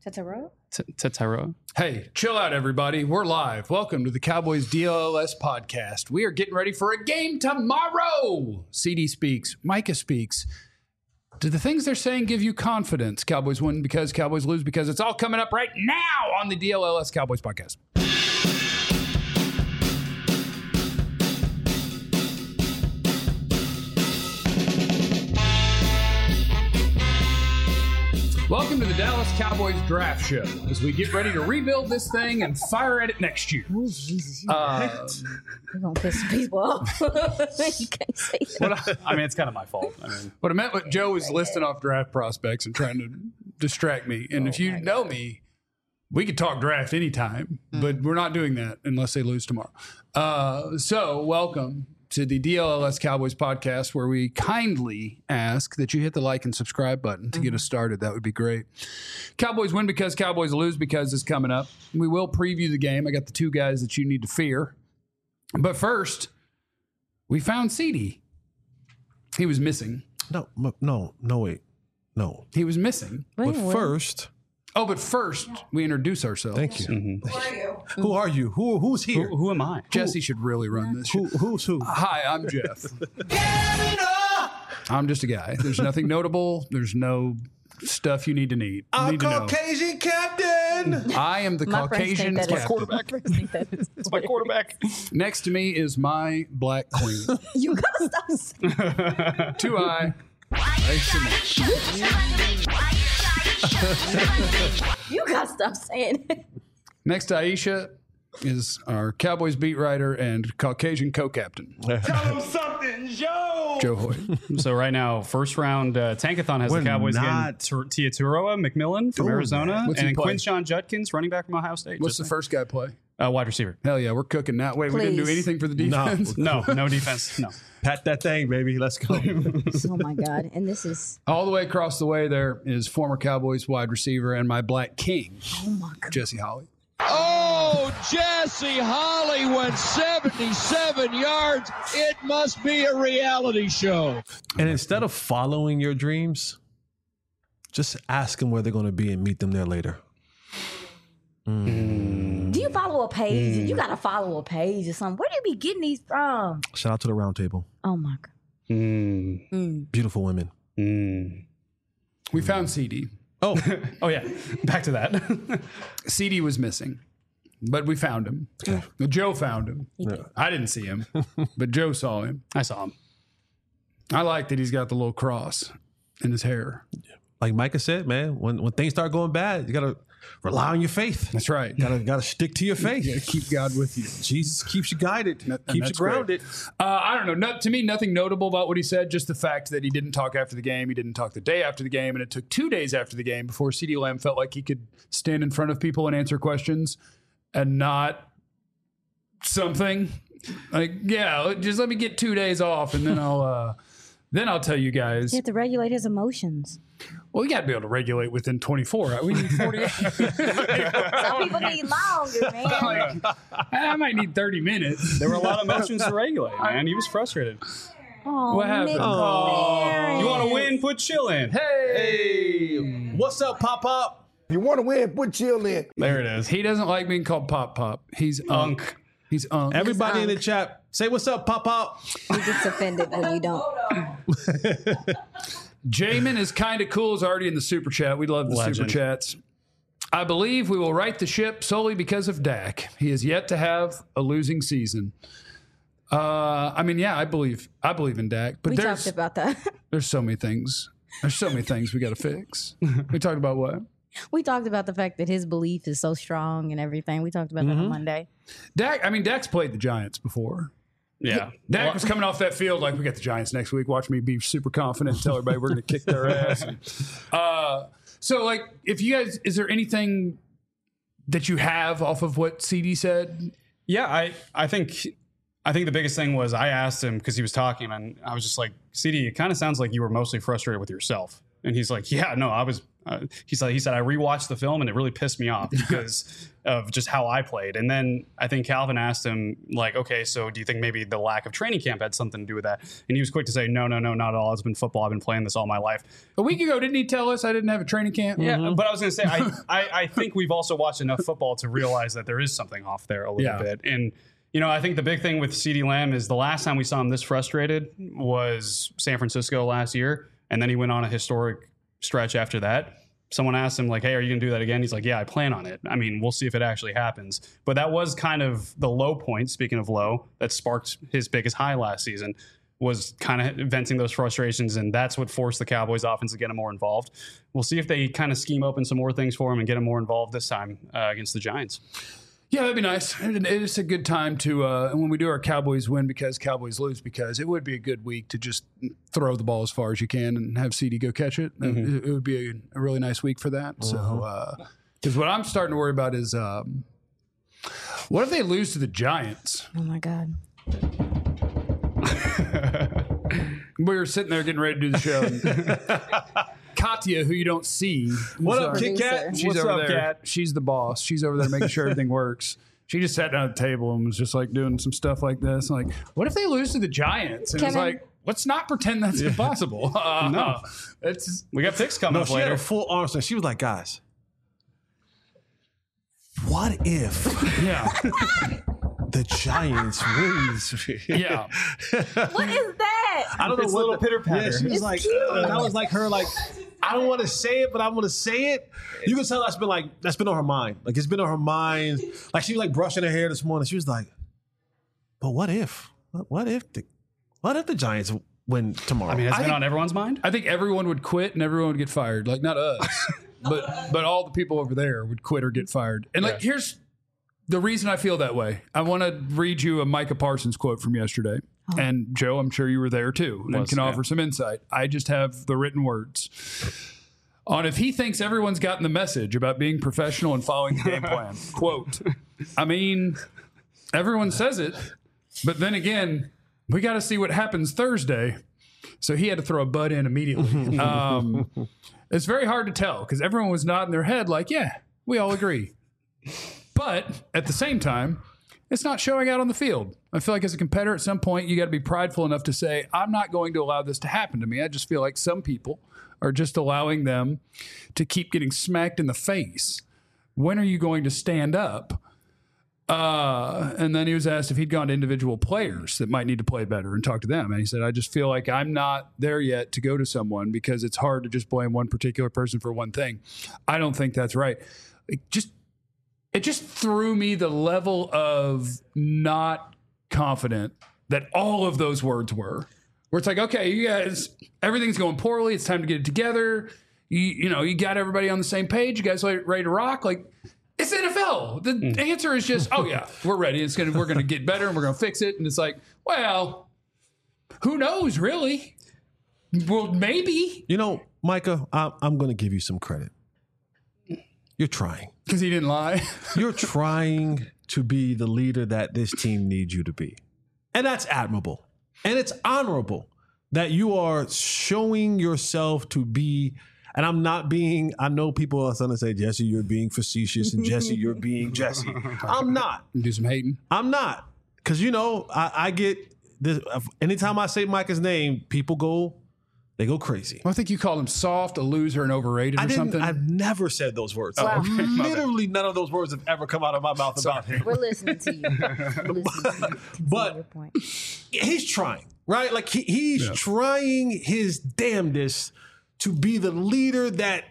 Tetaro. Hey, chill out, everybody. We're live. Welcome to the Cowboys DLLS podcast. We are getting ready for a game tomorrow. CD speaks. Micah speaks. Do the things they're saying give you confidence? Cowboys win because Cowboys lose because it's all coming up right now on the DLLS Cowboys podcast. Welcome to the Dallas Cowboys Draft Show as we get ready to rebuild this thing and fire at it next year. Oh, Jesus. You're going to piss people off. You can't say that. I mean, it's kind of my fault. What I meant with Joe was listing off draft prospects and trying to distract me. And if you know me, we could talk draft anytime, but we're not doing that unless they lose tomorrow. So welcome to the DLLS Cowboys podcast, where we kindly ask that you hit the like and subscribe button to get us started. That would be great. Cowboys win because Cowboys lose because is coming up. We will preview the game. I got the two guys that you need to fear. But first, we found CD. He was missing. No, wait. No. He was missing. But first, we introduce ourselves. thank you. Mm-hmm. Who are you? Who's here? Who am I? Jesse should really run this show. Who's who? Hi, I'm Jeff. I'm just a guy. There's nothing notable. There's no stuff you need to know. Caucasian captain. I am the Caucasian captain. Quarterback. It's my quarterback. Next to me is my black queen. You got to stop saying that. 2I. You got to stop saying it. Next to Aisha is our Cowboys beat writer and Caucasian co-captain. Tell him something, Joe. Joe Hoyt. So right now, first round Tankathon has We're the Cowboys not- getting Tiaturoa McMillan from Arizona What's he and play? Quinshon Judkins, running back from Ohio State. What's the first guy play? wide receiver? Hell yeah, we're cooking now. Wait, we didn't do Please. anything for the defense? No defense. No. Pat that thing, baby. Let's go. Oh, my God. And this is, All the way across the way there is former Cowboys wide receiver and my black king, oh, my God. Jesse Holly. Oh, Jesse Holly went 77 yards. It must be a reality show. And instead of following your dreams, just ask them where they're going to be and meet them there later. Do you follow a page? You got to follow a page or something. Where do you be getting these from? Shout out to the round table. Oh, my God. Beautiful women. We found CD. Oh yeah. Back to that. CD was missing, but we found him. Joe found him. I didn't see him, but Joe saw him. I saw him. I like that he's got the little cross in his hair. Like Micah said, man, when things start going bad, you got to rely on your faith. That's right. Gotta stick to your faith. You gotta keep God with you. Jesus keeps you guided, keeps you that's great. grounded. I don't know. To me, nothing notable about what he said. Just the fact that he didn't talk after the game. He didn't talk the day after the game. And it took 2 days after the game before CeeDee Lamb felt like he could stand in front of people and answer questions and not something. Like, yeah, just let me get 2 days off and then I'll tell you guys. You have to regulate his emotions. Well, you got to be able to regulate within 24 hours. We need 48. Some people need longer, man. I might need 30 minutes. There were a lot of emotions to regulate, man. He was frustrated. Oh, What happened? McLaren. You want to win? Put chill in. Hey, what's up, Pop Pop? You want to win? Put chill in. There it is. He doesn't like being called Pop Pop. He's Unk. He's Unk. Everybody in the chat, say what's up, Pop Pop. He gets offended when you don't. Jamin is kind of cool. Is already in the super chat. We love the super Legend. chats. I believe we will right the ship solely because of Dak. He has yet to have a losing season. I mean, yeah, I believe in Dak, but We talked about that. there's so many things. There's so many things we got to fix. We talked about what? We talked about the fact that his belief is so strong and everything. We talked about that on Monday. Dak's played the Giants before. Yeah. Dak was coming off that field like, we got the Giants next week. Watch me be super confident and tell everybody we're going to kick their ass. So, like, if you guys, is there anything that you have off of what CD said? Yeah, I think the biggest thing was I asked him because he was talking and I was just like, CD, it kind of sounds like you were mostly frustrated with yourself. And he's like, yeah, no, I was he said I rewatched the film and it really pissed me off because of just how I played. And then I think Calvin asked him, like, okay, so do you think maybe the lack of training camp had something to do with that? And he was quick to say, no, not at all. It's been football. I've been playing this all my life. A week ago, didn't he tell us I didn't have a training camp? Yeah, but I was going to say, I think we've also watched enough football to realize that there is something off there a little bit. And, I think the big thing with CeeDee Lamb is the last time we saw him this frustrated was San Francisco last year. And then he went on a historic stretch after that. Someone asked him, like, hey, are you going to do that again? He's like, yeah, I plan on it. I mean, we'll see if it actually happens. But that was kind of the low point, speaking of low, that sparked his biggest high last season, was kind of venting those frustrations. And that's what forced the Cowboys offense to get him more involved. We'll see if they kind of scheme open some more things for him and get him more involved this time against the Giants. Yeah, that'd be nice. It's a good time to, when we do our Cowboys win because Cowboys lose, because it would be a good week to just throw the ball as far as you can and have CeeDee go catch it. It would be a really nice week for that. So, because what I'm starting to worry about is, what if they lose to the Giants? Oh my God. We were sitting there getting ready to do the show. And Katya, who you don't see. What up, Kit Kat? She's What's over up, there. Kat? She's the boss. She's over there making sure everything works. She just sat down at the table and was just like doing some stuff like this. I'm like, what if they lose to the Giants? And it's like, let's not pretend that's impossible. No. We got picks coming No, up she had later. a full arm swing. She was like, guys, what if the Giants wins? Yeah. What is that? I don't know It's what a little pitter patter. Yeah, she was like, that was like her, like, I don't want to say it, but I'm going to say it. You can tell that's been on her mind. Like, it's been on her mind. Like, she was like brushing her hair this morning. She was like, but what if? What if the Giants win tomorrow? I mean, it's been on everyone's mind. I think everyone would quit and everyone would get fired. Like, not us, but all the people over there would quit or get fired. And like, here's the reason I feel that way. I want to read you a Micah Parsons quote from yesterday. And Joe, I'm sure you were there too and can offer some insight. I just have the written words on if he thinks everyone's gotten the message about being professional and following the game plan. Quote, I mean, everyone says it, but then again, we got to see what happens Thursday. So he had to throw a butt in immediately. It's very hard to tell because everyone was nodding their head like, yeah, we all agree. But at the same time, it's not showing out on the field. I feel like as a competitor, at some point, you got to be prideful enough to say, I'm not going to allow this to happen to me. I just feel like some people are just allowing them to keep getting smacked in the face. When are you going to stand up? And then he was asked if he'd gone to individual players that might need to play better and talk to them. And he said, I just feel like I'm not there yet to go to someone because it's hard to just blame one particular person for one thing. I don't think that's right. It just threw me the level of not confident that all of those words were. Where it's like, okay, you guys, everything's going poorly. It's time to get it together. You got everybody on the same page. You guys ready to rock? Like, it's NFL. The answer is just, oh yeah, we're ready. We're gonna get better and we're gonna fix it. And it's like, well, who knows, really? Well, maybe. Micah, I'm going to give you some credit. You're trying. Because he didn't lie. You're trying to be the leader that this team needs you to be. And that's admirable. And it's honorable that you are showing yourself to be, and I know people are going to say, Jesse, you're being facetious, and Jesse, you're being Jesse. I'm not. Do some hating. I'm not. Because, I get this. Anytime I say Micah's name, people go crazy. Well, I think you called him soft, a loser, and overrated or something. I've never said those words. Wow. Literally none of those words have ever come out of my mouth about him. We're listening to you. But your point. He's trying, right? Like he's trying his damnedest to be the leader that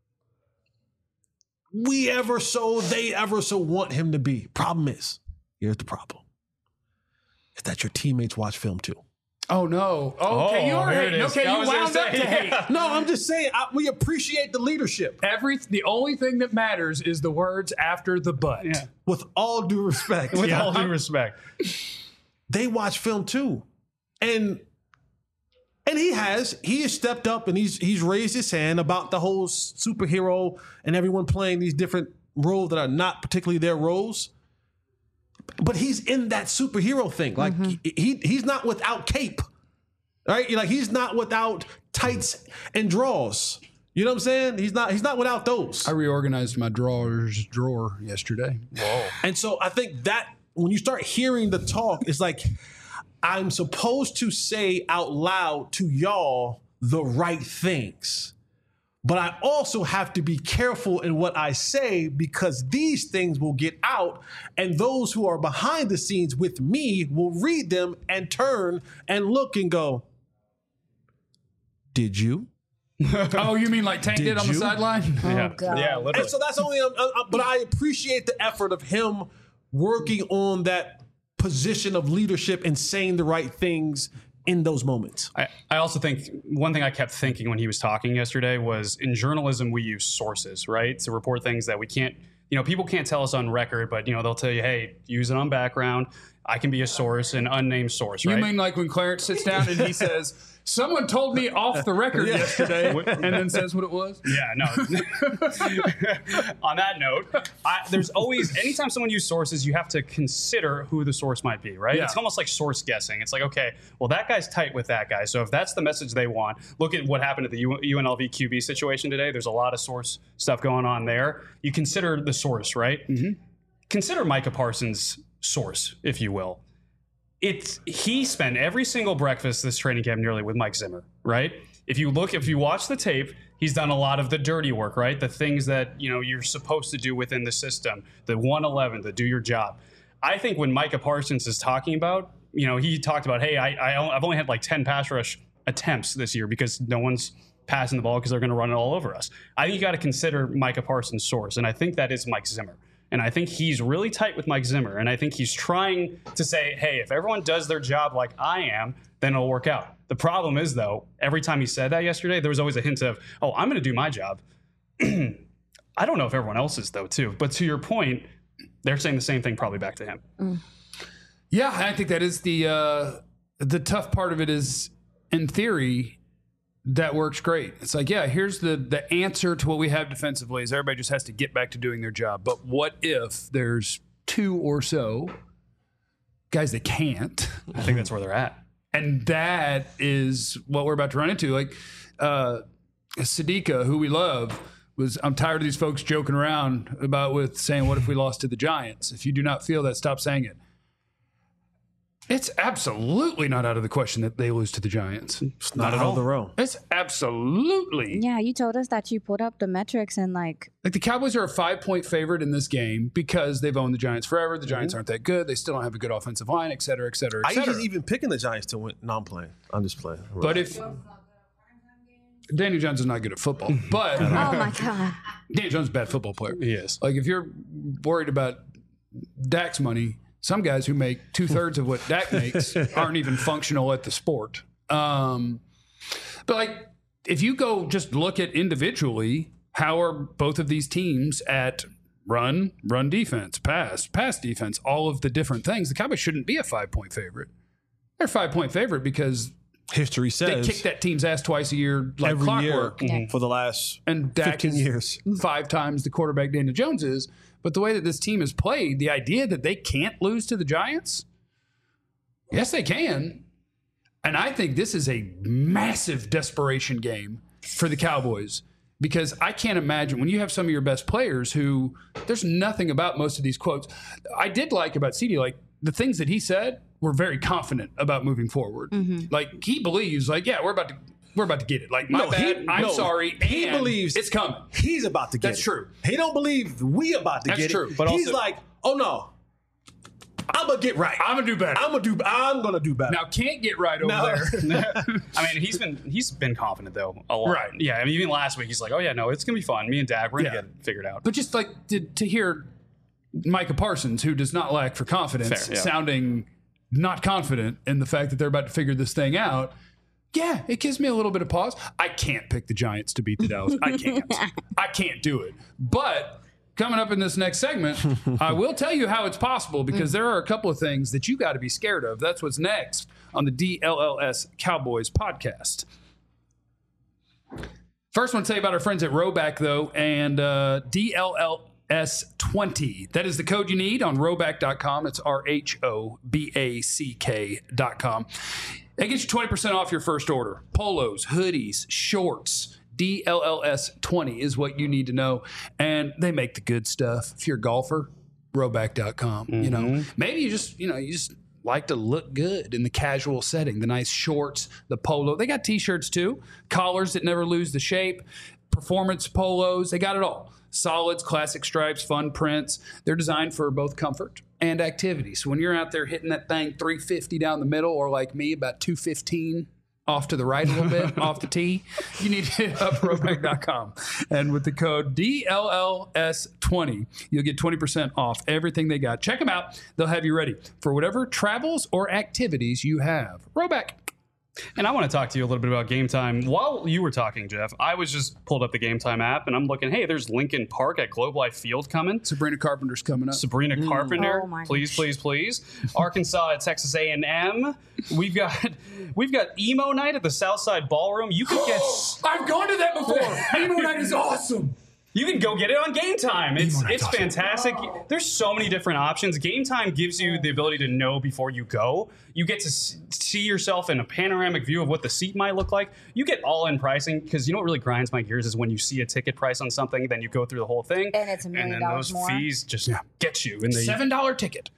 they ever so want him to be. Problem is, here's the problem. It's that your teammates watch film too. Oh, no. Okay, you're hating. Okay, you wound up to hate. No, I'm just saying, we appreciate the leadership. The only thing that matters is the words after the but. Yeah. With all due respect. With all due respect. They watch film too. And he has stepped up and he's raised his hand about the whole superhero and everyone playing these different roles that are not particularly their roles. But he's in that superhero thing. Like he's not without cape, right? Like he's not without tights and draws. You know what I'm saying? He's not without those. I reorganized my drawer yesterday. Whoa. And so I think that when you start hearing the talk, it's like I'm supposed to say out loud to y'all the right things. But I also have to be careful in what I say because these things will get out and those who are behind the scenes with me will read them and turn and look and go, did you? Oh, you mean like Tank did on the you? sideline? Oh, God. Yeah, literally. And so that's only, but I appreciate the effort of him working on that position of leadership and saying the right things in those moments. I also think one thing I kept thinking when he was talking yesterday was in journalism, we use sources, right? To report things that we can't, people can't tell us on record, but, they'll tell you, hey, use it on background. I can be a source, an unnamed source, right? You mean like when Clarence sits down and he says, someone told me off the record yesterday, and then says what it was? Yeah, no. On that note, there's always, anytime someone uses sources, you have to consider who the source might be, right? Yeah. It's almost like source guessing. It's like, okay, well, that guy's tight with that guy. So if that's the message they want, look at what happened at the UNLV QB situation today. There's a lot of source stuff going on there. You consider the source, right? Mm-hmm. Consider Micah Parsons' source, if you will. He spent every single breakfast this training camp nearly with Mike Zimmer, right? If you watch the tape, he's done a lot of the dirty work, right? The things that, you're supposed to do within the system, the 111, the do your job. I think when Micah Parsons is talking about, he talked about, hey, I've only had like 10 pass rush attempts this year because no one's passing the ball because they're going to run it all over us. I think you got to consider Micah Parsons' source, and I think that is Mike Zimmer. And I think he's really tight with Mike Zimmer. And I think he's trying to say, hey, if everyone does their job like I am, then it'll work out. The problem is, though, every time he said that yesterday, there was always a hint of, oh, I'm going to do my job. I don't know if everyone else is, though, too. But to your point, they're saying the same thing probably back to him. Mm. Yeah, I think that is the tough part of it is, in theory, that works great. It's like, yeah, here's the answer to what we have defensively is everybody just has to get back to doing their job. But what if there's two or so guys that can't? I think that's where they're at. And that is what we're about to run into. Like Sadika, who we love, I'm tired of these folks joking around with saying, what if we lost to the Giants? If you do not feel that, stop saying it. It's absolutely not out of the question that they lose to the Giants. It's not out of the realm. It's absolutely. Yeah, you told us that you pulled up the metrics and Like the Cowboys are a 5-point favorite in this game because they've owned the Giants forever. The Giants aren't that good. They still don't have a good offensive line, et cetera, et cetera, et I cetera. usually even picking the Giants to win. No, I'm playing. I'm just playing. But if Daniel Jones is not good at football, but oh my God. Daniel Jones is a bad football player. He is. Like if you're worried about Dak's money, some guys who make 2/3 of what Dak makes aren't even functional at the sport. But like, if you go just look at individually, how are both of these teams at run defense, pass defense, all of the different things? The Cowboys shouldn't be a 5-point favorite. They're a 5-point favorite because history says they kick that team's ass twice a year, like every clockwork. year for the last and Dak 15 is years. 5 times the quarterback Daniel Jones is. But the way that this team is played, the idea that they can't lose to the Giants, yes, they can. And I think this is a massive desperation game for the Cowboys because I can't imagine when you have some of your best players who there's nothing about most of these quotes. I did like about CD, like the things that he said were very confident about moving forward. Mm-hmm. Like he believes, like, yeah, we're about to get it. Like, my bad, I'm sorry. He and believes it's coming. He's about to get it. That's true. He don't believe we about to get it. That's true. But he's also, like, oh no, I'm gonna get right. I'm gonna do better. I'm gonna do better. Now can't get right over there. I mean, he's been confident though a lot. Right. Yeah. I mean, even last week he's like, oh yeah, no, it's gonna be fun. Me and Dak, we're gonna get it figured out. But just like to hear Micah Parsons, who does not lack for confidence, Fair, yeah. sounding not confident in the fact that they're about to figure this thing out. Yeah, it gives me a little bit of pause. I can't pick the Giants to beat the Dallas. I can't do it. But coming up in this next segment, I will tell you how it's possible because there are a couple of things that you got to be scared of. That's what's next on the DLLS Cowboys podcast. First, I want to tell you about our friends at Roback, though, and DLLS20. That is the code you need on Roback.com. It's RHOBACK.com. That gets you 20% off your first order. Polos, hoodies, shorts, DLLS20 is what you need to know. And they make the good stuff. If you're a golfer, Rhoback.com. You know, maybe you just like to look good in the casual setting, the nice shorts, the polo. They got t-shirts too, collars that never lose the shape, performance polos. They got it all. Solids, classic stripes, fun prints. They're designed for both comfort and activity. So when you're out there hitting that thing 350 down the middle, or like me, about 215 off to the right a little bit, off the tee, you need to hit up Rhoback.com. And with the code DLLS20, you'll get 20% off everything they got. Check them out. They'll have you ready for whatever travels or activities you have. Rhoback. And I want to talk to you a little bit about Game Time. While you were talking, Jeff, I was just pulled up the Game Time app, and I'm looking, hey, there's Lincoln Park at Globe Life Field coming. Sabrina Carpenter's coming up. Sabrina Carpenter, Oh my please, please, please. Arkansas at Texas A&M. We've got emo night at the Southside Ballroom. You can get I've gone to that before. Emo night is awesome. You can go get it on Game Time. It's fantastic. There's so many different options. Game Time gives you the ability to know before you go. You get to see yourself in a panoramic view of what the seat might look like. You get all-in pricing, because you know what really grinds my gears is when you see a ticket price on something, then you go through the whole thing, And it's $1 million and then those more. fees just get you. In the $7 ticket.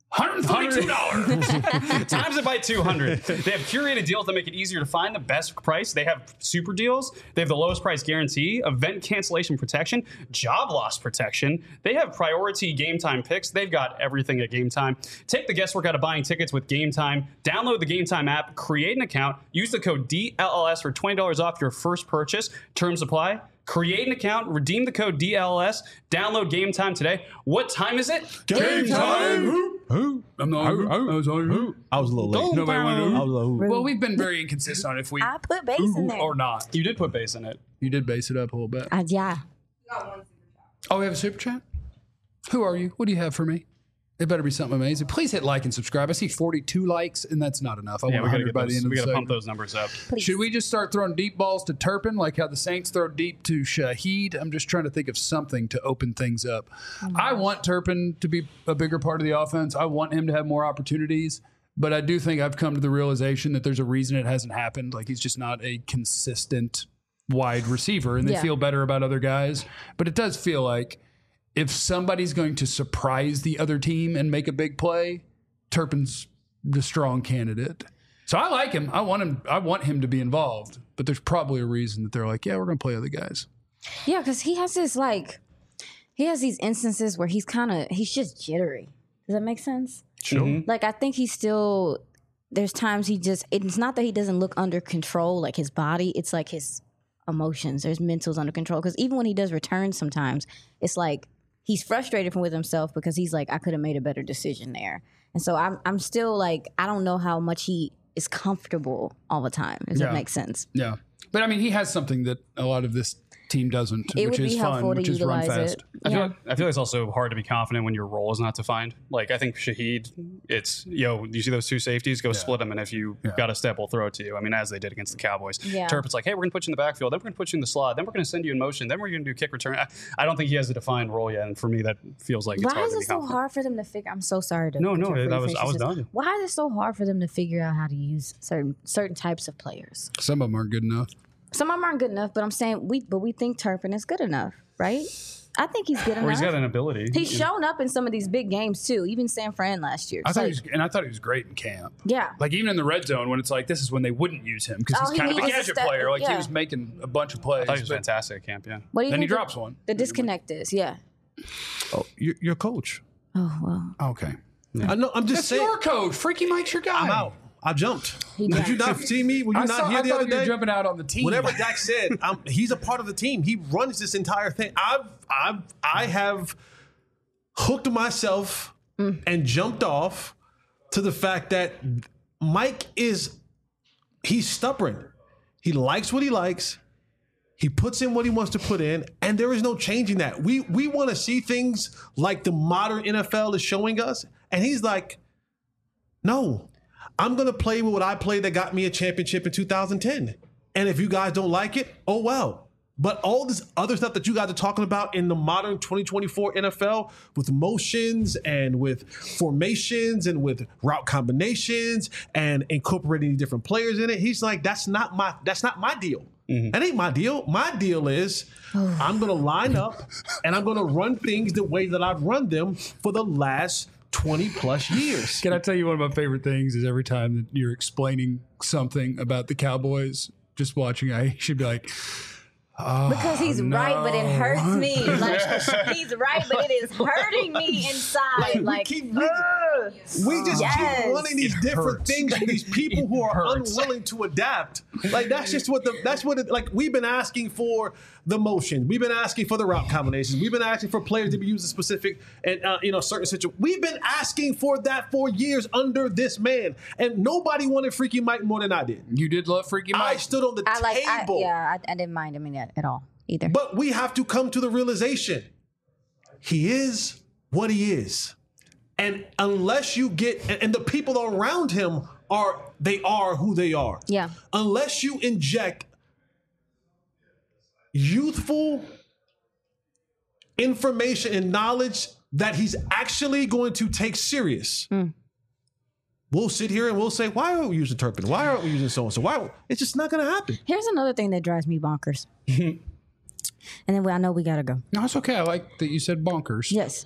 $142. Times it by 200. They have curated deals that make it easier to find the best price. They have super deals. They have the lowest price guarantee, event cancellation protection, job loss protection. They have priority Game Time picks. They've got everything at Game Time. Take the guesswork out of buying tickets with Game Time. Download the Game Time app, create an account, use the code DLLS for $20 off your first purchase. Terms apply. Create an account, redeem the code DLLS, download Game Time today. What time is it? Game time. Who? I'm not who. I was a little late. Nobody went I was a little. Well, we've been very inconsistent on if we I put bass in there. or not. You did put bass in it. You did base it up a little bit. Yeah. Oh, we have a super chat? Who are you? What do you have for me? It better be something amazing. Please hit like and subscribe. I see 42 likes, and that's not enough. I Yeah, want we 100 gotta by the end of we the gotta pump segment. those numbers up. Please. Should we just start throwing deep balls to Turpin, like how the Saints throw deep to Shaheed? I'm just trying to think of something to open things up. I want Turpin to be a bigger part of the offense. I want him to have more opportunities. But I do think I've come to the realization that there's a reason it hasn't happened. Like, he's just not a consistent wide receiver, and they Yeah. feel better about other guys. But it does feel like if somebody's going to surprise the other team and make a big play, Turpin's the strong candidate. So I like him. I want him to be involved. But there's probably a reason that they're like, yeah, we're going to play other guys. Yeah, because he has this he has these instances where he's just jittery. Does that make sense? Sure. Like, I think there's times it's not that he doesn't look under control, like his body, it's like his emotions, there's mentals under control. Because even when he does return sometimes, it's like he's frustrated with himself because he's like, I could have made a better decision there. And so I'm still like, I don't know how much he is comfortable all the time. Does that make sense? Yeah. But I mean, he has something that a lot of this team doesn't, It which would is be fun, helpful to which is run utilize fast. it. I Yeah. feel like it's also hard to be confident when your role is not defined. Like, I think Shaheed, it's, you see those two safeties, go split them, and if you got a step, we'll throw it to you. I mean, as they did against the Cowboys. Yeah. Turpin's like, hey, we're going to put you in the backfield, then we're going to put you in the slot, then we're going to send you in motion, then we're going to do kick return. I don't think he has a defined role yet, and for me, that feels like it's Why hard is to it be so confident. hard for them to figure? I'm so sorry to No, interrupt I you, was Fisher. done. Why is it so hard for them to figure out how to use certain types of players? Some of them aren't good enough. Some of them aren't good enough, but I'm saying we think Turpin is good enough, right? I think he's good enough. Or he's got an ability. He's shown up in some of these big games too, even San Fran last year. I It's thought like- he was great in camp. yeah. Like, even in the red zone, when it's like, this is when they wouldn't use him because Oh, he's kind of a was a gadget step- player. Like, he yeah. was making a bunch of plays. I thought he was but fantastic at camp, yeah. What do you then he think drops one. the disconnect is? Yeah. Oh, your coach. Oh well, Okay. I know. I'm just That's saying. your coach. Freaky Mike's your guy. I'm out. I jumped. He Did jumped. you not see me? Were you I not here thought the other you were day? jumping out on the team. Whatever Dak said, he's a part of the team. He runs this entire thing. I have hooked myself and jumped off to the fact that Mike he's stubborn. He likes what he likes. He puts in what he wants to put in, and there is no changing that. We want to see things like the modern NFL is showing us, and he's like, no, I'm going to play with what I played that got me a championship in 2010. And if you guys don't like it, oh well. But all this other stuff that you guys are talking about in the modern 2024 NFL with motions and with formations and with route combinations and incorporating different players in it, he's like, that's not my deal. That ain't my deal. My deal is I'm going to line up and I'm going to run things the way that I've run them for the last 20 plus years. Can I tell you one of my favorite things is every time that you're explaining something about the Cowboys, just watching, I should be like, because he's right, but it hurts me. Like he's right, but it is hurting me inside. We just keep running these different things for these people who are unwilling to adapt. Like that's what it, like we've been asking for the motion. We've been asking for the route combinations. We've been asking for players to be used in specific and certain situations. We've been asking for that for years under this man, and nobody wanted Freaky Mike more than I did. You did love Freaky Mike. I stood on the table. I didn't mind him in that at all either. But we have to come to the realization he is what he is. And unless you get, and the people around him are who they are. Yeah. Unless you inject youthful information and knowledge that he's actually going to take serious. We'll sit here and we'll say, why aren't we using Turpin? Why aren't we using so-and-so? Why? It's just not going to happen. Here's another thing that drives me bonkers. And then I know we got to go. No, it's okay. I like that you said bonkers. Yes.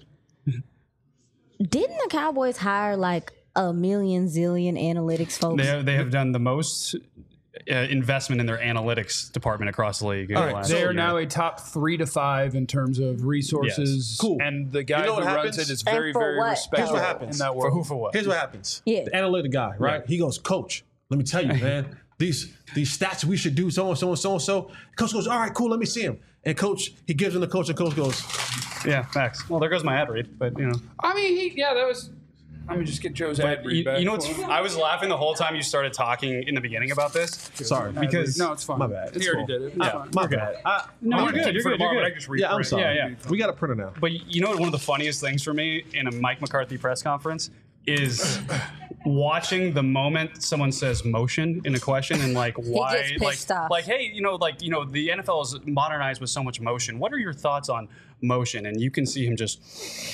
Didn't the Cowboys hire like a million zillion analytics folks? They have done the most investment in their analytics department across the league. They are now a top 3 to 5 in terms of resources. Yes. Cool. And the guy who runs it is very, very respectful Here's what happens. in that world. For who, for what? Here's what happens. Yeah. The analytic guy, right? Yeah. He goes, Coach, let me tell you, man, these stats we should do so-and-so and so-and-so. Coach goes, all right, cool, let me see him. And Coach, he gives him the coach, and Coach goes, yeah, facts. Well, there goes my ad read, but I mean, that was... Let me just get Joe's ad read back. You know what's? I was laughing the whole time you started talking in the beginning about this. sorry. Because No, it's fine. My bad. He already did it. It's fine. My bad. No, you're good. You're good. I just read Yeah, I'm sorry. Yeah. We got a printer now. But you know what? One of the funniest things for me in a Mike McCarthy press conference is watching the moment someone says motion in a question and like why, gets pissed off. like hey, the NFL is modernized with so much motion. What are your thoughts on motion? And you can see him just.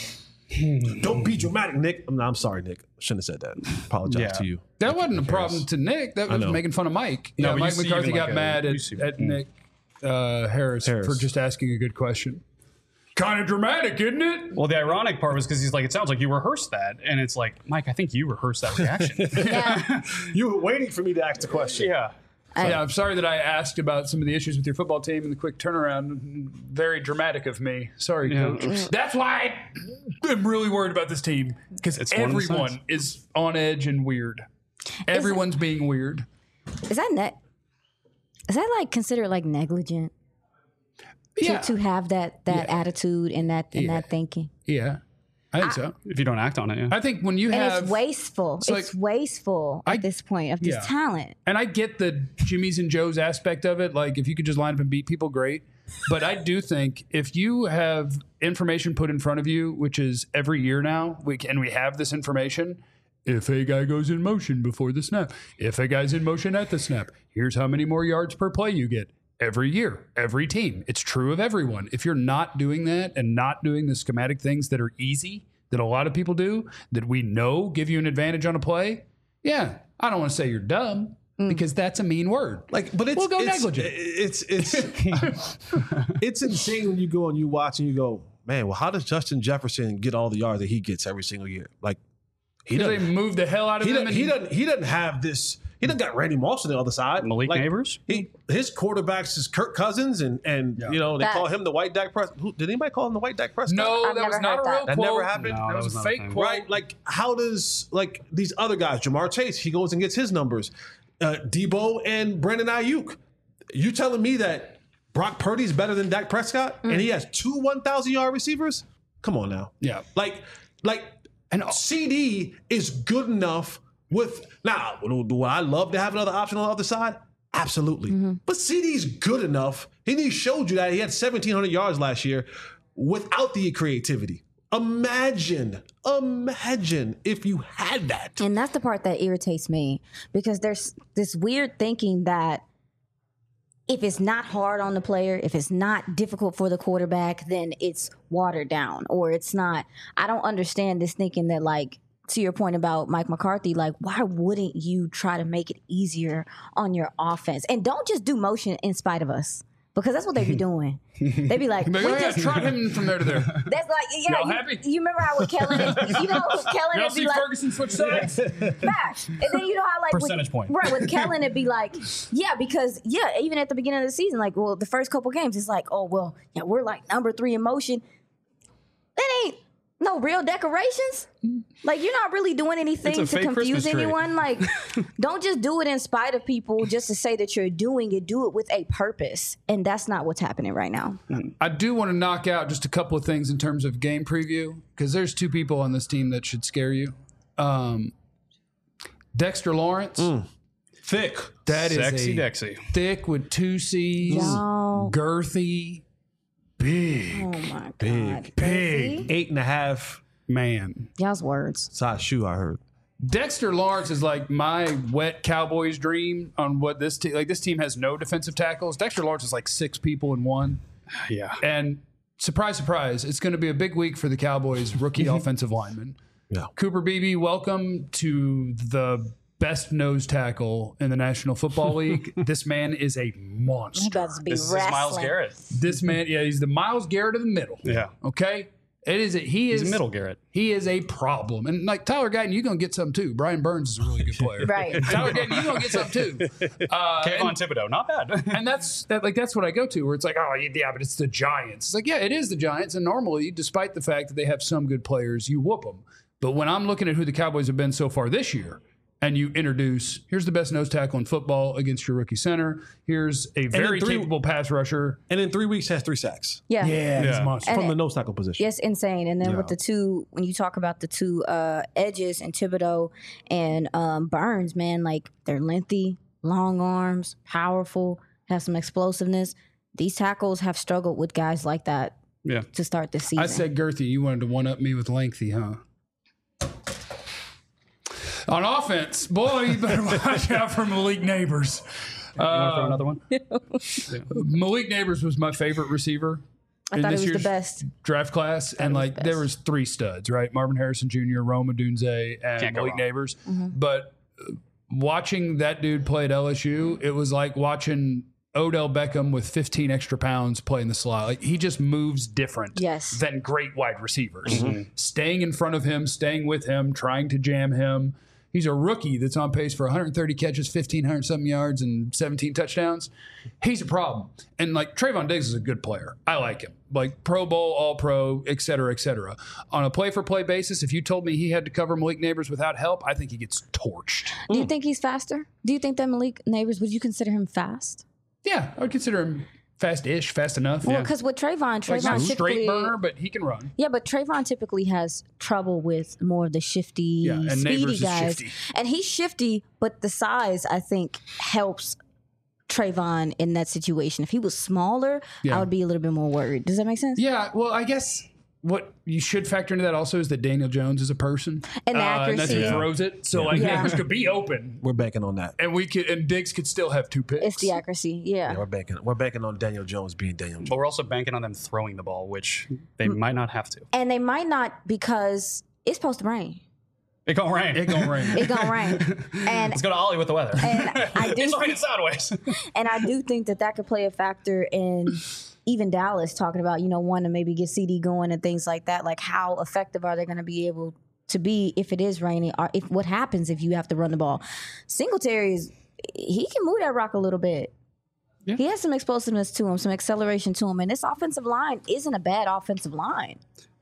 Don't be dramatic, Nick. I'm sorry, Nick. Shouldn't have said that. Apologize to you. That wasn't a problem to Nick. That was making fun of Mike. No, Mike you see McCarthy even got like mad at Nick Harris for just asking a good question. Kind of dramatic, isn't it? Well, the ironic part was because he's like, it sounds like you rehearsed that. And it's like, Mike, I think you rehearsed that reaction. Yeah. You were waiting for me to ask the question. Yeah. Yeah, I'm sorry that I asked about some of the issues with your football team and the quick turnaround. Very dramatic of me. Sorry, Coach. That's why I'm really worried about this team because everyone is on edge and weird. Everyone's being weird. Is that like considered like negligent? Yeah. To have that attitude and that thinking. Yeah, I think so. If you don't act on it, yeah. I think when you And have... it's wasteful. It's wasteful at this point of this talent. And I get the Jimmy's and Joe's aspect of it. Like, if you could just line up and beat people, great. But I do think if you have information put in front of you, which is every year now, we have this information. If a guy goes in motion before the snap, if a guy's in motion at the snap, here's how many more yards per play you get. Every year, every team. It's true of everyone. If you're not doing that and not doing the schematic things that are easy, that a lot of people do, that we know give you an advantage on a play, I don't want to say you're dumb because that's a mean word. We'll go negligent. It's insane when you go and you watch and you go, man, well, how does Justin Jefferson get all the yards that he gets every single year? Like, He doesn't move the hell out of him. He doesn't have this. He doesn't got Randy Moss on the other side. Malik Neighbors. His quarterbacks is Kirk Cousins, and they call him the White Dak Prescott. Did anybody call him the White Dak Prescott? No, that was not a real quote. That never happened. No, that was a fake quote. Right? Like, how does these other guys, Jamar Chase, he goes and gets his numbers. Debo and Brandon Ayuk. You telling me that Brock Purdy's better than Dak Prescott, and he has 2 1,000-yard receivers? Come on now. Yeah. And CD is good enough with now. Do I love to have another option on the other side? Absolutely. But CD's good enough. He showed you that he had 1,700 yards last year without the creativity. Imagine if you had that. And that's the part that irritates me because there's this weird thinking that if it's not hard on the player, if it's not difficult for the quarterback, then it's watered down or it's not. I don't understand this thinking that like to your point about Mike McCarthy, like, why wouldn't you try to make it easier on your offense? And don't just do motion in spite of us. Because that's what they be doing. They be like, we just trot him from there to there. That's like, yeah. Y'all happy? You remember how with Kellen, Kellen Y'all would be see like, Ferguson switch sides? back. And then you know how like Percentage point. Right, with Kellen it'd be like, yeah, because even at the beginning of the season, like, well, the first couple games, it's like, oh well, yeah, we're like number 3 in motion. That ain't no real decorations. Like, you're not really doing anything to fake confuse Christmas tree. anyone. Like, don't just do it in spite of people just to say that you're doing it. Do it with a purpose. And that's not what's happening right now. I do want to knock out just a couple of things in terms of game preview, because there's 2 people on this team that should scare you. Dexter Lawrence. Thick. That is Sexy a Dexy. thick with 2 C's, Y'all. girthy, big, Oh my God. big 8.5 man. Y'all's words. size shoe, I heard. Dexter Lawrence is like my wet Cowboys dream on what this team, like this team has no defensive tackles. Dexter Lawrence is like 6 people in one. Yeah. And surprise, surprise, it's going to be a big week for the Cowboys rookie offensive lineman. Yeah. Cooper Beebe, welcome to the best nose tackle in the National Football League. This man is a monster. You about to be This is wrestling. Myles Garrett. This man, yeah, he's the Myles Garrett of the middle. Yeah. Okay? It is He's a middle Garrett. He is a problem. And like Tyler Guyton, you're going to get some too. Brian Burns is a really good player. Right. Tyler Guyton, you're going to get some too. Kayvon Thibodeau, not bad. And that's what I go to, where it's like, oh yeah, but it's the Giants. It's like, yeah, it is the Giants, and normally, despite the fact that they have some good players, you whoop them. But when I'm looking at who the Cowboys have been so far this year, and you introduce, here's the best nose tackle in football against your rookie center. Here's a very capable pass rusher. And in 3 weeks, has 3 sacks Yeah. He's a monster. from the nose tackle position. Yes, insane. And then with the 2, when you talk about the 2 edges and Thibodeau and Burns, man, like, they're lengthy, long arms, powerful, have some explosiveness. These tackles have struggled with guys like that Yeah. to start this season. I said girthy. You wanted to one-up me with lengthy, huh? On offense, boy, you better watch out for Malik Neighbors. You want to throw another one? Malik Neighbors was my favorite receiver. I thought this he was the year's best. draft class, and was like the there best. was 3 studs, right? Marvin Harrison Jr., Rome Odunze, and Can't go Malik wrong. Neighbors. Mm-hmm. But watching that dude play at LSU, it was like watching Odell Beckham with 15 extra pounds playing the slot. Like, he just moves different Yes. than great wide receivers. Staying in front of him, staying with him, trying to jam him. He's a rookie that's on pace for 130 catches, 1,500-something yards, and 17 touchdowns. He's a problem. And, like, Trayvon Diggs is a good player. I like him. Like, Pro Bowl, All-Pro, et cetera, et cetera. On a play-for-play basis, if you told me he had to cover Malik Neighbors without help, I think he gets torched. Do you think he's faster? Do you think that Malik Neighbors, would you consider him fast? Yeah, I would consider him fast-ish, fast enough. Well, Yeah. because with Trayvon Like, not typically, straight burner, but he can run. yeah, but Trayvon typically has trouble with more of the shifty, Yeah, and speedy Neighbors is guys. shifty. And he's shifty, but the size, I think, helps Trayvon in that situation. If he was smaller, Yeah. I would be a little bit more worried. Does that make sense? Yeah, well, I guess what you should factor into that also is that Daniel Jones is a person. And the And that's who accuracy. throws it. So, like, Yeah. Neighbors could be open, We're banking on that. and Diggs could still have 2 picks. It's the accuracy. Yeah. Yeah, we're banking on Daniel Jones being Daniel Jones. But we're also banking on them throwing the ball, which they might not have to. And they might not because it's supposed to rain. It gonna rain. It gonna rain. It's gonna rain. And It's gonna ollie with the weather. And I do it's raining sideways. And I do think that could play a factor in even Dallas talking about, wanting to maybe get CD going and things like that. Like, how effective are they going to be able to be if it is raining? Or if what happens if you have to run the ball? Singletary he can move that rock a little bit. Yeah. He has some explosiveness to him, some acceleration to him. And this offensive line isn't a bad offensive line.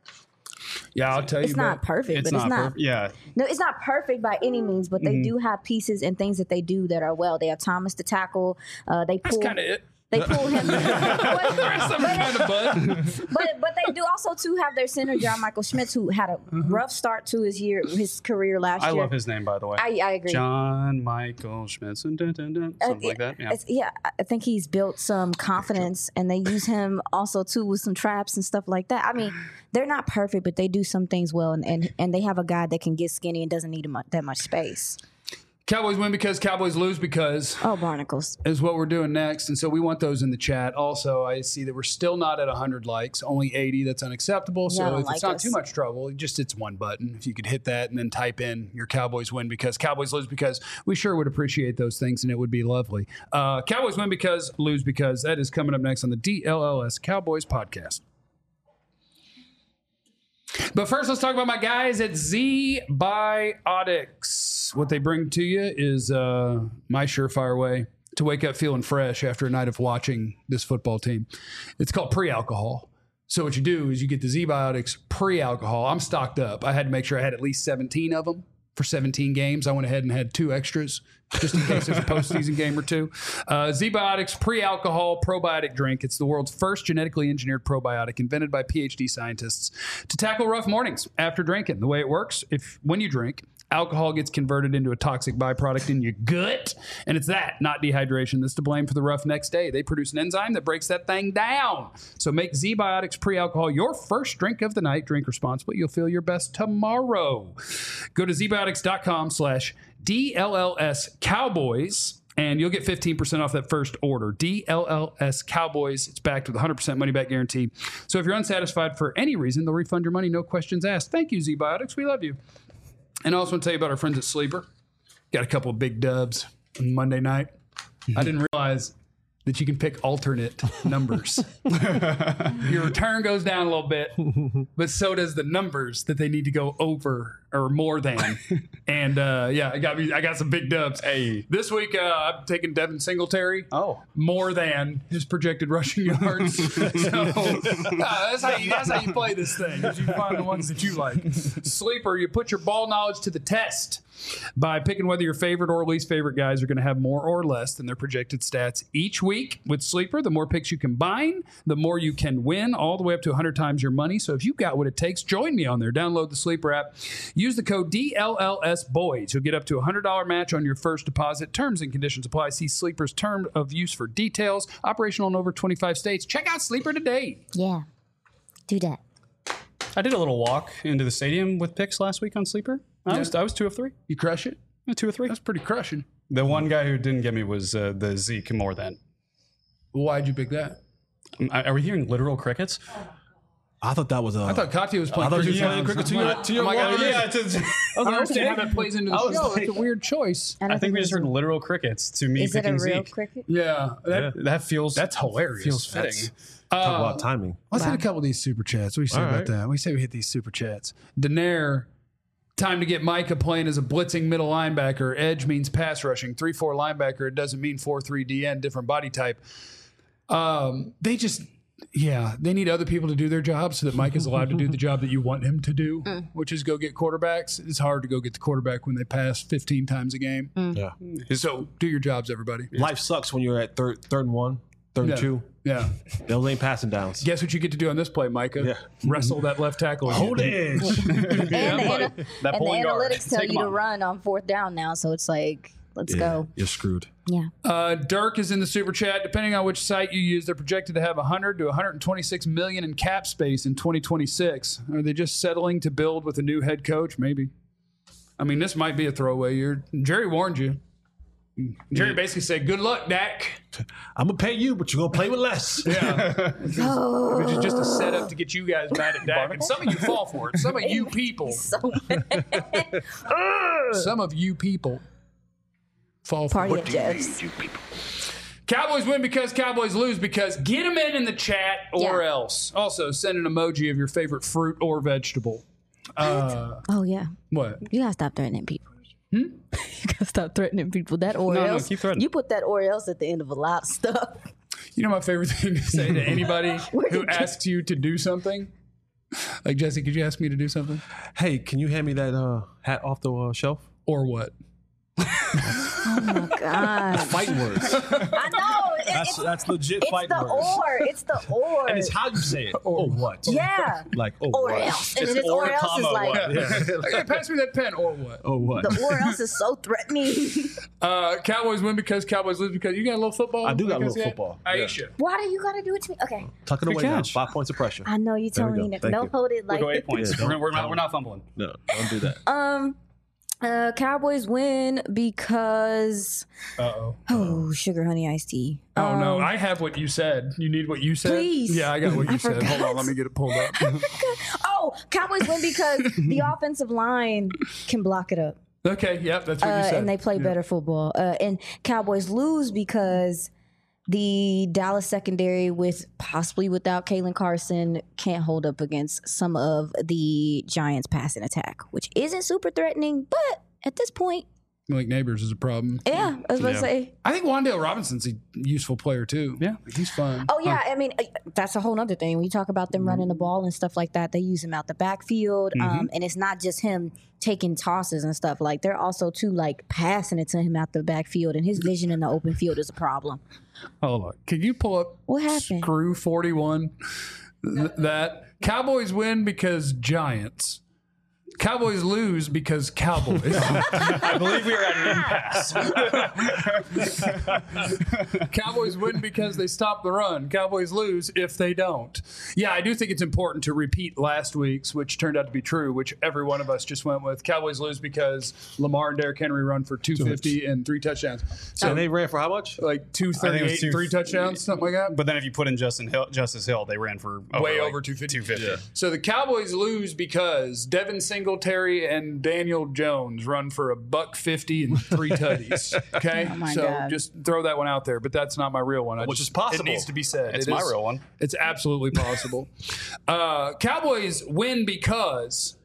Yeah, I'll tell you. It's not perfect, but it's not. perfect. Yeah. No, it's not perfect by any means, but they do have pieces and things that they do that are well. They have Thomas to tackle. They That's pull. kind of it. They pull him. Some kind of bud. But they do also too have their center John Michael Schmitz, who had a rough start to his career last I year. love his name, by the way. I agree. John Michael Schmitz. Something like that. Yeah. I think he's built some confidence, and they use him also too with some traps and stuff like that. I mean, they're not perfect, but they do some things well, and they have a guy that can get skinny and doesn't need that much space. Cowboys win because Cowboys lose because Oh, barnacles. is what we're doing next. And so we want those in the chat. Also, I see that we're still not at 100 likes, only 80. That's unacceptable. Yeah, So I don't if it's like not us. too much trouble, just it's one button. If you could hit that and then type in your Cowboys win because Cowboys lose because we sure would appreciate those things and it would be lovely. Cowboys win because lose because that is coming up next on the DLLS Cowboys podcast. But first, let's talk about my guys at Z-Biotics. What they bring to you is my surefire way to wake up feeling fresh after a night of watching this football team. It's called pre-alcohol. So what you do is you get the Z-Biotics pre-alcohol. I'm stocked up. I had to make sure I had at least 17 of them for 17 games. I went ahead and had 2 extras just in case there's a postseason game or 2. Z-Biotics pre-alcohol probiotic drink. It's the world's first genetically engineered probiotic invented by PhD scientists to tackle rough mornings after drinking. The way it works, when you drink, alcohol gets converted into a toxic byproduct in your gut, and it's that, not dehydration, that's to blame for the rough next day. They produce an enzyme that breaks that thing down. So make Z-Biotics pre-alcohol your first drink of the night. Drink responsibly. You'll feel your best tomorrow. Go to zbiotics.com/DLLS Cowboys, and you'll get 15% off that first order. DLLS Cowboys. It's backed with 100% money back guarantee. So if you're unsatisfied for any reason, they'll refund your money, no questions asked. Thank you, Z-Biotics. We love you. And I also want to tell you about our friends at Sleeper. Got a couple of big dubs on Monday night. I didn't realize that you can pick alternate numbers. Your return goes down a little bit, but so does the numbers that they need to go over or more than. And yeah, I got some big dubs. Hey. This week I'm taking Devin Singletary. Oh. More than his projected rushing yards. So that's how you play this thing. Is you find the ones that you like. Sleeper, you put your ball knowledge to the test by picking whether your favorite or least favorite guys are going to have more or less than their projected stats each week. With Sleeper, the more picks you combine, the more you can win, all the way up to 100 times your money. So if you've got what it takes, join me on there. Download the Sleeper app. Use the code DLLSBOYS. You'll get up to a $100 match on your first deposit. Terms and conditions apply. See Sleeper's term of use for details. Operational in over 25 states. Check out Sleeper today. Yeah. Do that. I did a little walk into the stadium with picks last week on Sleeper. I was 2 of 3. You crush it? 2 of 3. That's pretty crushing. The one guy who didn't get me was the Zeke more than. Why'd you pick that? Are we hearing literal crickets? I thought that was I thought Katya was playing I thought you cricket. were playing cricket to your Oh my God, warriors. yeah. I don't understand how that plays into the I was show. like- It's a weird choice. I think we just heard literal crickets to me Is it a picking real Zeke. cricket? Yeah. That feels That's hilarious. Feels fitting. Talk about timing. Let's hit a couple of these super chats. What do you say All about right. that? We say we hit these super chats. Daenerys, time to get Micah playing as a blitzing middle linebacker. Edge means pass rushing. 3-4 linebacker. It doesn't mean 4-3 DN, different body type. They need other people to do their job so that Mike is allowed to do the job that you want him to do, which is go get quarterbacks. It's hard to go get the quarterback when they pass 15 times a game. Yeah. So do your jobs, everybody. Life sucks when you're at third and 1, third and 2. Yeah. Those ain't passing downs. Guess what you get to do on this play, Micah? Yeah. Wrestle that left tackle. Hold again. edge. That And the pulling guard. analytics tell Take you him to on. run on 4th down now, so it's like, let's go. You're screwed. Yeah. Dirk is in the super chat. Depending on which site you use, they're projected to have 100 to 126 million in cap space in 2026. Are they just settling to build with a new head coach? Maybe. I mean, this might be a throwaway year. Jerry warned you. Jerry basically said, "Good luck, Dak." I'm going to pay you, but you're going to play with less. Yeah, which is just a setup to get you guys mad at Dak. And some of you fall for it. Some of you people. So Some of you people fall for party it. at Jeff's. Cowboys win because Cowboys lose because get them in the chat or Yeah. else. Also, send an emoji of your favorite fruit or vegetable. Oh yeah. What? You gotta stop threatening people. You gotta stop threatening people. That or No, else. keep threatening. You put that or else at the end of a lot of stuff. You know my favorite thing to say to anybody Where'd who you get- asks you to do something? Like, Jesse, could you ask me to do something? Hey, can you hand me that hat off the shelf? Or what? Oh my god. Fighting words. I know. That's legit It's fighting the words. or. It's the or. And it's how you say it. Or what? Yeah. Like, oh, Or what? else. And then it's or else is like Hey, pass me that pen. Or what? Oh, what? the or else is so threatening. Cowboys win because Cowboys lose because you got a little football? I do got a Like little said? football. Aisha. Why do you gotta do it to me? Okay. Tuck it Good away now. catch. 5 points of pressure. I know you There told we me go. to Thank don't you. hold it We'll like go 8 points. Yeah, we're not fumbling. No, don't do that. Um Cowboys win because sugar honey iced tea. Oh no, I have what you said. You need what you said? Please. Yeah, I got what you I said. Hold on, let me get it pulled up. Cowboys win because the offensive line can block it up. Okay, yep, that's what you said. And they play better football. And Cowboys lose because the Dallas secondary, possibly without Kalen Carson, can't hold up against some of the Giants' passing attack, which isn't super threatening, but at this point, Malik Neighbors is a problem. yeah, I was going to say. I think Wan'Dale Robinson's a useful player too. Yeah, he's fun. Oh, yeah. I mean, that's a whole other thing. When you talk about them running the ball and stuff like that, they use him out the backfield. And it's not just him taking tosses and stuff. Like, they're also, too, like, passing it to him out the backfield. And his vision in the open field is a problem. Hold on. Can you pull up What happened? Screw 41? That Cowboys win because Giants. Cowboys lose because Cowboys. I believe we are at an impasse. Cowboys win because they stop the run. Cowboys lose if they don't. Yeah, I do think it's important to repeat last week's, which turned out to be true, which every one of us just went with. Cowboys lose because Lamar and Derrick Henry run for 250 and 3 touchdowns. So And they ran for how much? like 238 and 3 touchdowns, something like that. But then if you put in Justice Hill, they ran for Way over 250. 250. So the Cowboys lose because Devin Singletary and Daniel Jones run for $150 and 3 tutties. Okay, Oh my so God. just throw that one out there. But that's not my real one. Which is possible. It needs to be said. It's It my is- real one. It's absolutely possible. Cowboys win because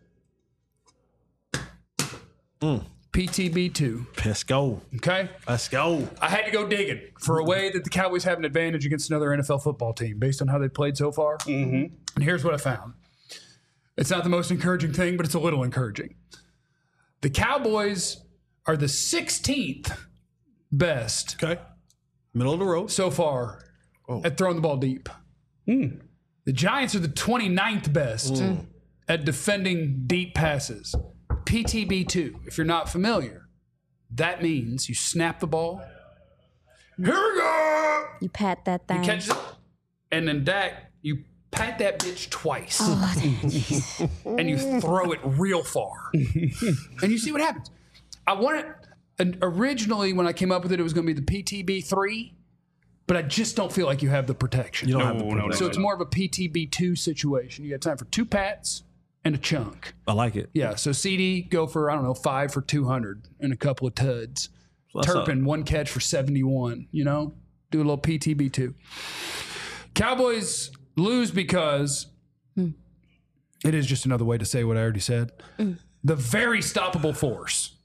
PTB2. Let's go. Okay, Let's go. I had to go digging for a way that the Cowboys have an advantage against another NFL football team based on how they played so far. Mm-hmm. And here's what I found. It's not the most encouraging thing, but it's a little encouraging. The Cowboys are the 16th best Okay. Middle of the road. so far at throwing the ball deep. The Giants are the 29th best at defending deep passes. PTB2, if you're not familiar, that means you snap the ball. Here we go! You pat that thing. Catches it, and then Dak, you pat that bitch twice. And you throw it real far. And you see what happens. I wanted, and originally when I came up with it, it was going to be the PTB3, but I just don't feel like you have the protection. You don't have the No. So it's more of a PTB2 situation. You got time for 2 pats and a chunk. I like it. Yeah, so CD, go for, 5 for 200 and a couple of tuds. What's up? Turpin, 1 catch for 71, Do a little PTB2. Cowboys lose because it is just another way to say what I already said. The very stoppable force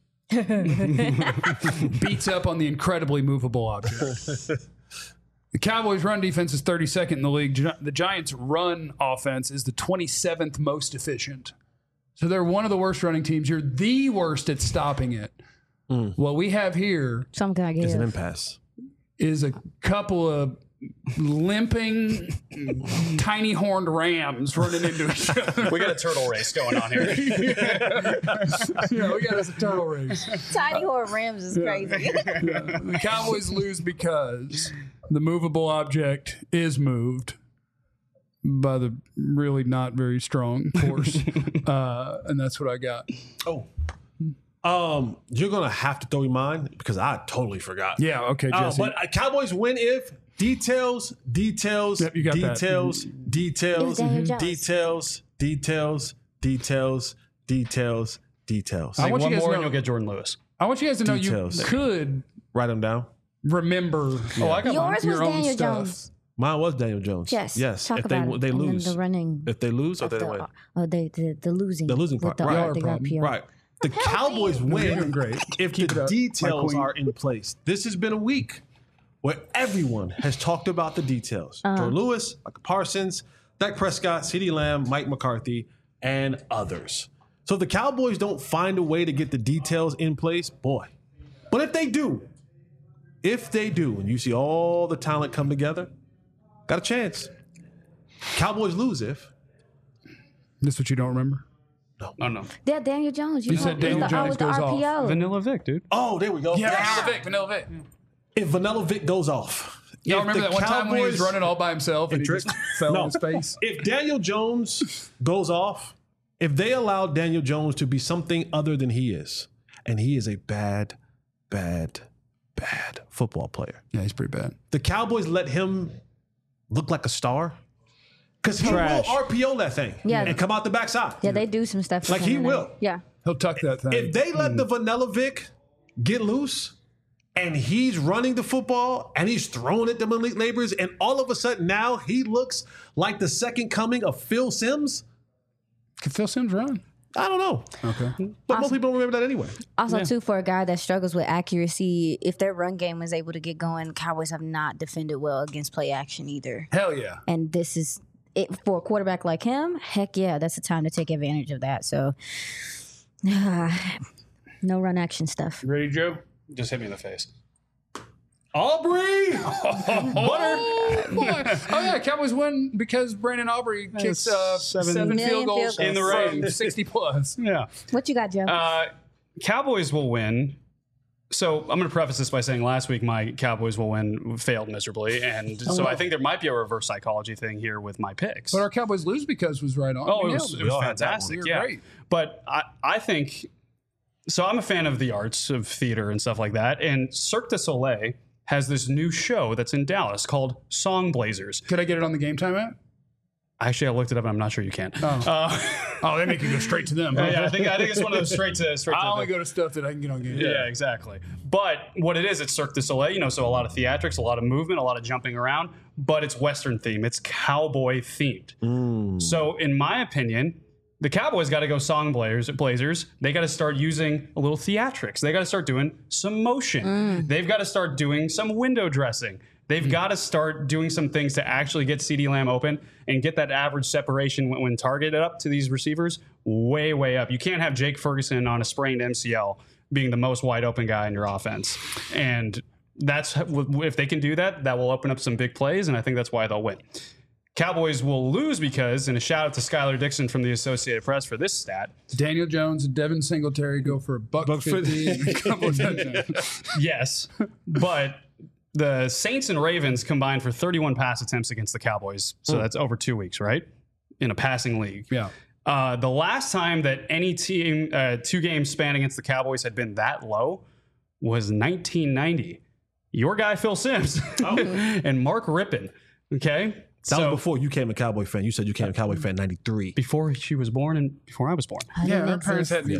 beats up on the incredibly movable object. The Cowboys' run defense is 32nd in the league. The Giants' run offense is the 27th most efficient. So they're one of the worst running teams. You're the worst at stopping it. What we have here Some guy It's an gave. impasse. is a couple of limping, tiny horned rams running into each other. We got a turtle race going on here. Yeah, we got us a turtle race. Tiny Horn Rams is crazy. The Cowboys lose because the movable object is moved by the really not very strong force. And that's what I got. You're gonna have to throw your mind because I totally forgot. Yeah, okay, Jesse. But Cowboys win if details, Yep, you got that. details, It was Daniel Jones. details. I want you One guys more to and know, you'll get Jordan Lewis. I want you guys to know Details. you could Write them down. remember. Oh, I got mine. Yours was Your own Daniel stuff. Jones. Mine was Daniel Jones. Yes. Talk If about it. they And then lose, the running. if they lose or of they the, win, the losing. The losing with part, The, right. the RPO. right. The Cowboys win You're doing great. if Keep it the up, my details queen. are in place. This has been a week where everyone has talked about the details. Jordan Lewis, Micah Parsons, Dak Prescott, CeeDee Lamb, Mike McCarthy, and others. So if the Cowboys don't find a way to get the details in place, boy. But if they do, and you see all the talent come together, got a chance. Cowboys lose if. This what you don't remember? Oh, no. Yeah, Daniel Jones. You said Daniel Jones with the goes off. RPO. Vanilla Vic, dude. Oh, there we go. Vanilla Vic. If Vanilla Vic goes off. Y'all if remember the that one time when he was Cowboys- running all by himself and he Trick- just fell No. on his face? If Daniel Jones goes off, if they allow Daniel Jones to be something other than he is, and he is a bad football player. Yeah, he's pretty bad. The Cowboys let him look like a star because he will RPO that thing and come out the backside. Yeah, they do some stuff. Like he will. Yeah. He'll tuck that thing. If they let the Vanilla Vic get loose and he's running the football and he's throwing it to Malik Nabers and all of a sudden now he looks like the second coming of Phil Simms. Can Phil Simms run? I don't know. Okay. But most people don't remember that anyway. Also, too, for a guy that struggles with accuracy, if their run game is able to get going, Cowboys have not defended well against play action either. Hell yeah. And this is it for a quarterback like him. Heck yeah, that's the time to take advantage of that. So, no run action stuff. Ready, Joe? Just hit me in the face. Aubrey! Butter! Boy. Oh, yeah, Cowboys win because Brandon Aubrey kicked 7 field goals in the rain. 60 plus. Yeah. What you got, Joe? Cowboys will win. So I'm going to preface this by saying last week my Cowboys will win failed miserably. And so I think there might be a reverse psychology thing here with my picks. But our Cowboys lose because was right on. Oh, it was fantastic. Yeah. Great. But I think, so I'm a fan of the arts, of theater and stuff like that. And Cirque du Soleil has this new show that's in Dallas called Song Blazers. Could I get it on the Game Time app? Actually, I looked it up and I'm not sure you can. Oh, they make you go straight to them. Huh? Yeah, I think it's one of those straight to. I only go to stuff that I can get on Game Time. Yeah, exactly. But what it is, it's Cirque du Soleil, so a lot of theatrics, a lot of movement, a lot of jumping around, but it's Western themed. It's cowboy themed. So in my opinion, the Cowboys got to go Song Blazers. They got to start using a little theatrics. They got to start doing some motion. They've got to start doing some window dressing. They've got to start doing some things to actually get CeeDee Lamb open and get that average separation when targeted up to these receivers way, way up. You can't have Jake Ferguson on a sprained MCL being the most wide open guy in your offense. And that's if they can do that, that will open up some big plays, and I think that's why they'll win. Cowboys will lose because, and a shout out to Skylar Dixon from the Associated Press for this stat. Daniel Jones and Devin Singletary go for $150 and a couple of touchdowns. Yes, but the Saints and Ravens combined for 31 pass attempts against the Cowboys. So that's over 2 weeks, right? In a passing league. Yeah. The last time that any team, 2 games span against the Cowboys had been that low was 1990. Your guy, Phil Simms, and Mark Rippon. Okay. That was before you became a Cowboy fan. You said you became a Cowboy fan in 93. Before she was born and before I was born. Yeah, our parents hadn't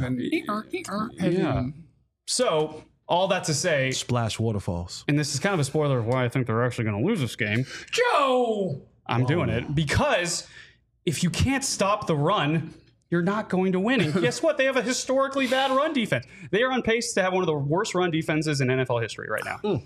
even. So, all that to say, Splash waterfalls. and this is kind of a spoiler of why I think they're actually going to lose this game. Joe! I'm doing it because if you can't stop the run, you're not going to win. And guess what? They have a historically bad run defense. They are on pace to have one of the worst run defenses in NFL history right now.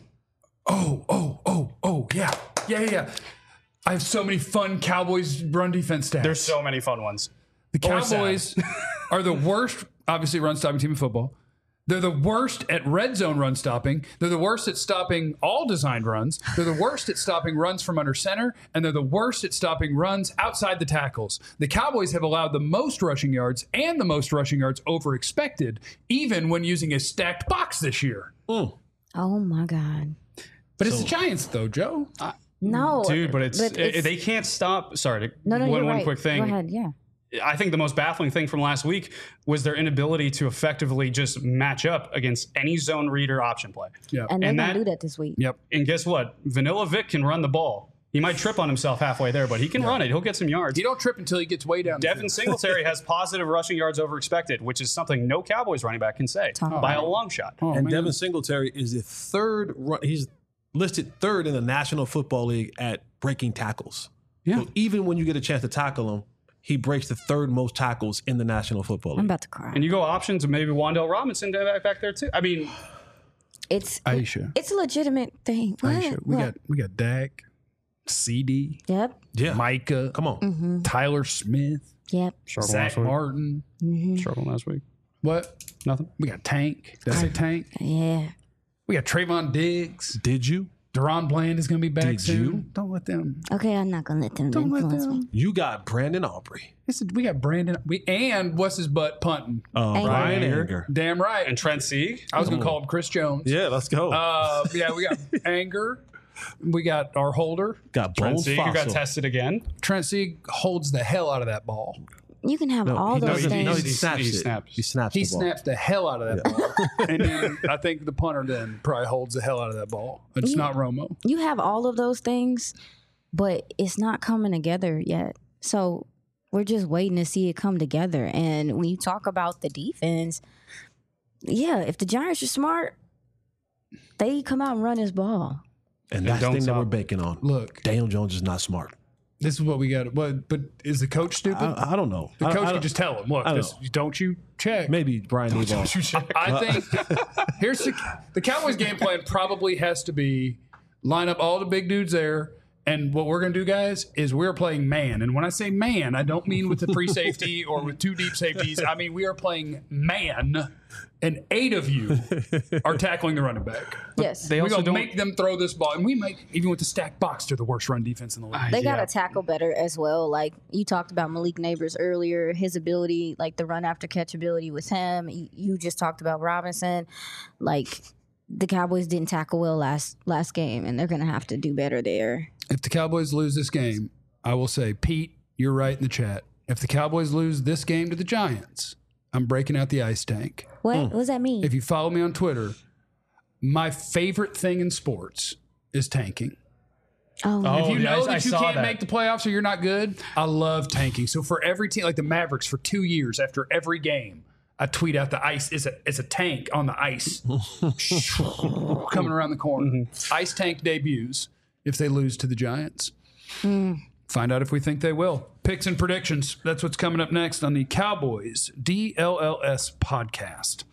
Yeah. I have so many fun Cowboys run defense stats. There's so many fun ones. The Cowboys are the worst, obviously, run stopping team in football. They're the worst at red zone run stopping. They're the worst at stopping all designed runs. They're the worst at stopping runs from under center. And they're the worst at stopping runs outside the tackles. The Cowboys have allowed the most rushing yards and the most rushing yards over expected, even when using a stacked box this year. Oh, my God. But it's the Giants, though, Joe. No. Dude, but it's they can't stop. Sorry. No, one right. quick thing. Go ahead, yeah. I think the most baffling thing from last week was their inability to effectively just match up against any zone read or option play. Yeah. And they're And going to that- do that this week. Yep. And guess what? Vanilla Vic can run the ball. He might trip on himself halfway there, but he can run it. He'll get some yards. You don't trip until he gets way down. the Devin field. Singletary has positive rushing yards over expected, which is something no Cowboys running back can say by a long shot. Oh, And man. Devin Singletary is the third. He's listed third in the National Football League at breaking tackles. Yeah. So even when you get a chance to tackle him, he breaks the third most tackles in the National Football I'm League. about to cry. And you go options, and maybe Wan'Dale Robinson back there too. I mean, It's Aisha. It's a legitimate thing. What? Aisha. We got Dak, CD, Yep. Yeah. Micah, Come on. Tyler Smith, Yep. struggled Zach last week. Martin. Struggled last week. What? Nothing. We got Tank. Did I say Tank? Yeah. We got Trayvon Diggs. Did you? Deron Bland is going to be back Did soon. you? Don't let them. Okay, I'm not going to let them Don't let influence me. them. You got Brandon Aubrey. We got Brandon. And what's his butt punting? Brian Anger. Anger. Damn right. And Trent Sieg. I was going to call him Chris Jones. Yeah, let's go. Yeah, we got Anger. We got our holder. got Trent Bones Sieg, who got Fossil. tested again. Trent Sieg holds the hell out of that ball. You can have all he those doesn't. things. No, he He snaps it. snaps. He snaps He the ball. snaps the hell out of that ball. And then I think the punter then probably holds the hell out of that ball. It's not Romo. You have all of those things, but it's not coming together yet. So we're just waiting to see it come together. And when you talk about the defense, yeah, if the Giants are smart, they come out and run his ball. And that's the don't thing that stop. we're banking on. Look, Daniel Jones is not smart. this is what we got. But is the coach stupid? I don't know. The coach I could just tell him, look, I don't this, don't you check. maybe Brian Daboll. I think here's the Cowboys' game plan probably has to be line up all the big dudes there. And what we're going to do, guys, is we're playing man. And when I say man, I don't mean with the free safety or with two deep safeties. I mean, we are playing man, and 8 of you are tackling the running back. Yes. They We're also going to don't. make them throw this ball. And we might, even with the stacked box, they're the worst run defense in the league. They got Yeah. to tackle better as well. Like you talked about Malik Neighbors earlier, his ability, like the run after catch ability with him. You just talked about Robinson. Like the Cowboys didn't tackle well last game, and they're going to have to do better there. If the Cowboys lose this game, I will say, Pete, you're right in the chat. If the Cowboys lose this game to the Giants, I'm breaking out the ice tank. What does that mean? If you follow me on Twitter, my favorite thing in sports is tanking. Oh, If you yeah, know I that you saw can't that. make the playoffs or you're not good, I love tanking. So for every team, like the Mavericks, for 2 years after every game, I tweet out the ice is a tank on the ice coming around the corner. Ice tank debuts if they lose to the Giants. Find out if we think they will. Picks and predictions. That's what's coming up next on the Cowboys DLLS podcast.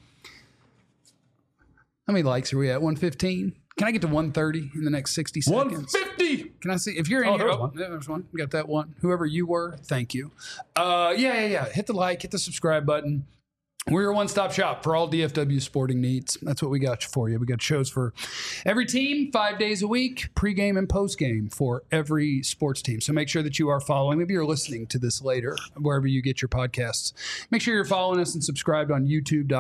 How many likes are we at? 115? Can I get to 130 in the next 60 seconds? 150. Can I see if you're in here? there's Oh, one. yeah, there's one. We got that one. Whoever you were, thank you. Yeah. Hit the like, hit the subscribe button. We're your one-stop shop for all DFW sporting needs. That's what we got for you. We got shows for every team, 5 days a week, pregame and postgame for every sports team. So make sure that you are following. Maybe you're listening to this later, wherever you get your podcasts. Make sure you're following us and subscribed on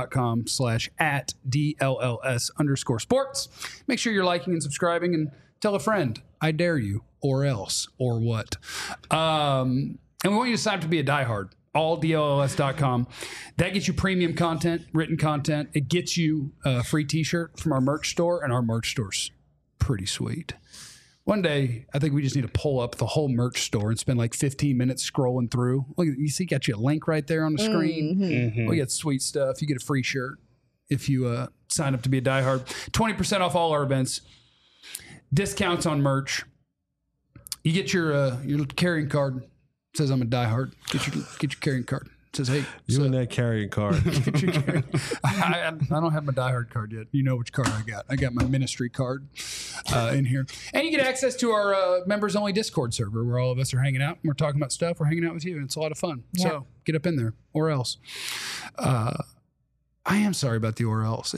youtube.com/@DLLS_sports. Make sure you're liking and subscribing and tell a friend, I dare you, or else, or what. And we want you to sign up to be a diehard. AllDLLS.com. That gets you premium content, written content. It gets you a free t-shirt from our merch store, and our merch store's pretty sweet. One day, I think we just need to pull up the whole merch store and spend like 15 minutes scrolling through. Look, you see, got you a link right there on the screen. We got sweet stuff. You get a free shirt if you sign up to be a diehard. 20% off all our events. Discounts on merch. You get your carrying card. Says I'm a diehard. Get your carrying card. It says, hey, You and that carrying card. get your carrying. I don't have my diehard card yet. You know which card I got. I got my ministry card in here. And you get access to our members only Discord server where all of us are hanging out and we're talking about stuff. We're hanging out with you and it's a lot of fun. So get up in there or else. I am sorry about the or else.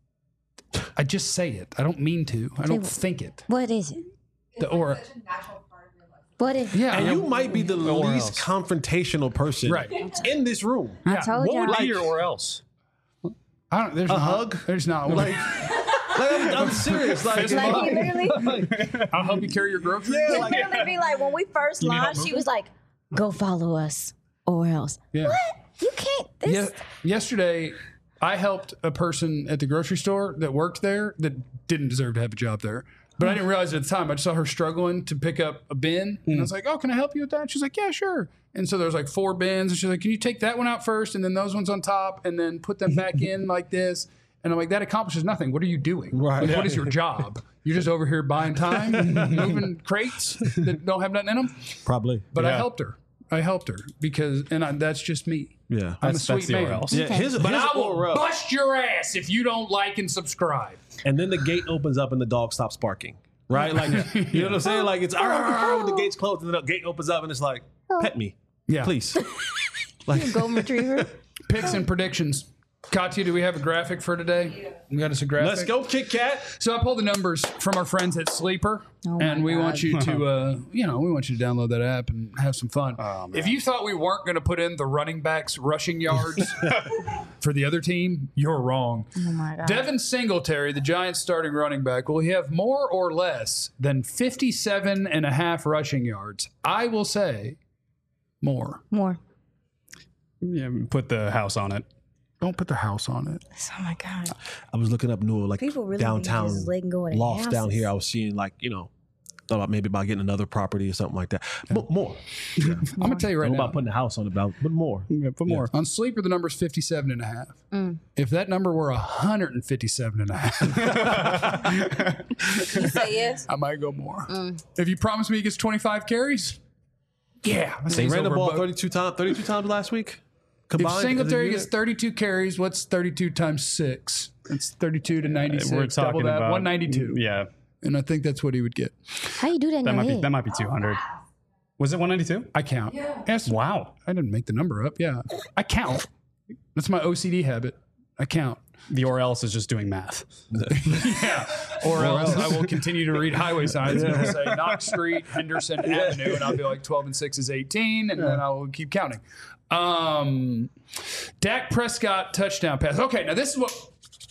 I just say it. I don't mean to. I don't think it. what is it? The or. What is it? Yeah. And I you know. might be the least confrontational person Right. in this room. I told What you. would be your or else? There's A not, hug? There's not one. Like I'm serious. Like, Like he literally, I'll help you carry your groceries. he literally be like, when we first launched, she was like, "Go follow us, or else." Yeah. What? You can't. This. Yesterday, I helped a person at the grocery store that worked there that didn't deserve to have a job there. But I didn't realize it at the time. I just saw her struggling to pick up a bin. And I was like, oh, can I help you with that? She's like, yeah, sure. And so there was like 4 bins. And she's like, can you take that one out first and then those ones on top and then put them back in like this? And I'm like, that accomplishes nothing. What are you doing? Right. Like, what is your job? You're just over here buying time, moving crates that don't have nothing in them. Probably. But I helped her. Because, that's just me. Yeah. I'm a That's sweet the or man. else. Yeah, But I will or else. bust your ass if you don't like and subscribe. And then the gate opens up and the dog stops barking. Right? Like, you know what I'm saying? Like, it's when the gate's closed and the gate opens up and it's like, pet me. Yeah. Please. Golden retriever. Picks and predictions. Katya, do we have a graphic for today? We got us a graphic. Let's go, Kit Kat. So I pulled the numbers from our friends at Sleeper, and we want you to, we want you to download that app and have some fun. If you thought we weren't going to put in the running backs rushing yards for the other team, you're wrong. Oh my god. Devin Singletary, the Giants' starting running back, will he have more or less than 57.5 rushing yards? I will say more. More. Yeah, put the house on it. Don't put the house on it. Oh my God. I was looking up new like People really be downtown just letting go of their lofts down houses. here. I was seeing like, thought about maybe about getting another property or something like that. But more. I'm gonna tell you right Right now. about putting a house on it, but more. Yeah, put more. On Sleeper, the number's 57.5. If that number were 157.5, You say yes? I might go more. If you promise me he gets 25 carries, yeah. They ran the ball 32 times last week. If Combined Singletary as a gets unit? 32 carries, what's 32 times 6? It's 32 to 96. We're Double talking that, about 192. Yeah, And I think that's what he would get. How you do that in your head? that might be 200. Was it 192? I count. Yes. Wow. I didn't make the number up. Yeah. I count. That's my OCD habit. I count. The or else is just doing math. Yeah. Or else I will continue to read highway signs and it'll say Knox Street, Henderson Avenue, and I'll be like 12 and 6 is 18, and then I will keep counting. Dak Prescott touchdown pass. Okay, now this is what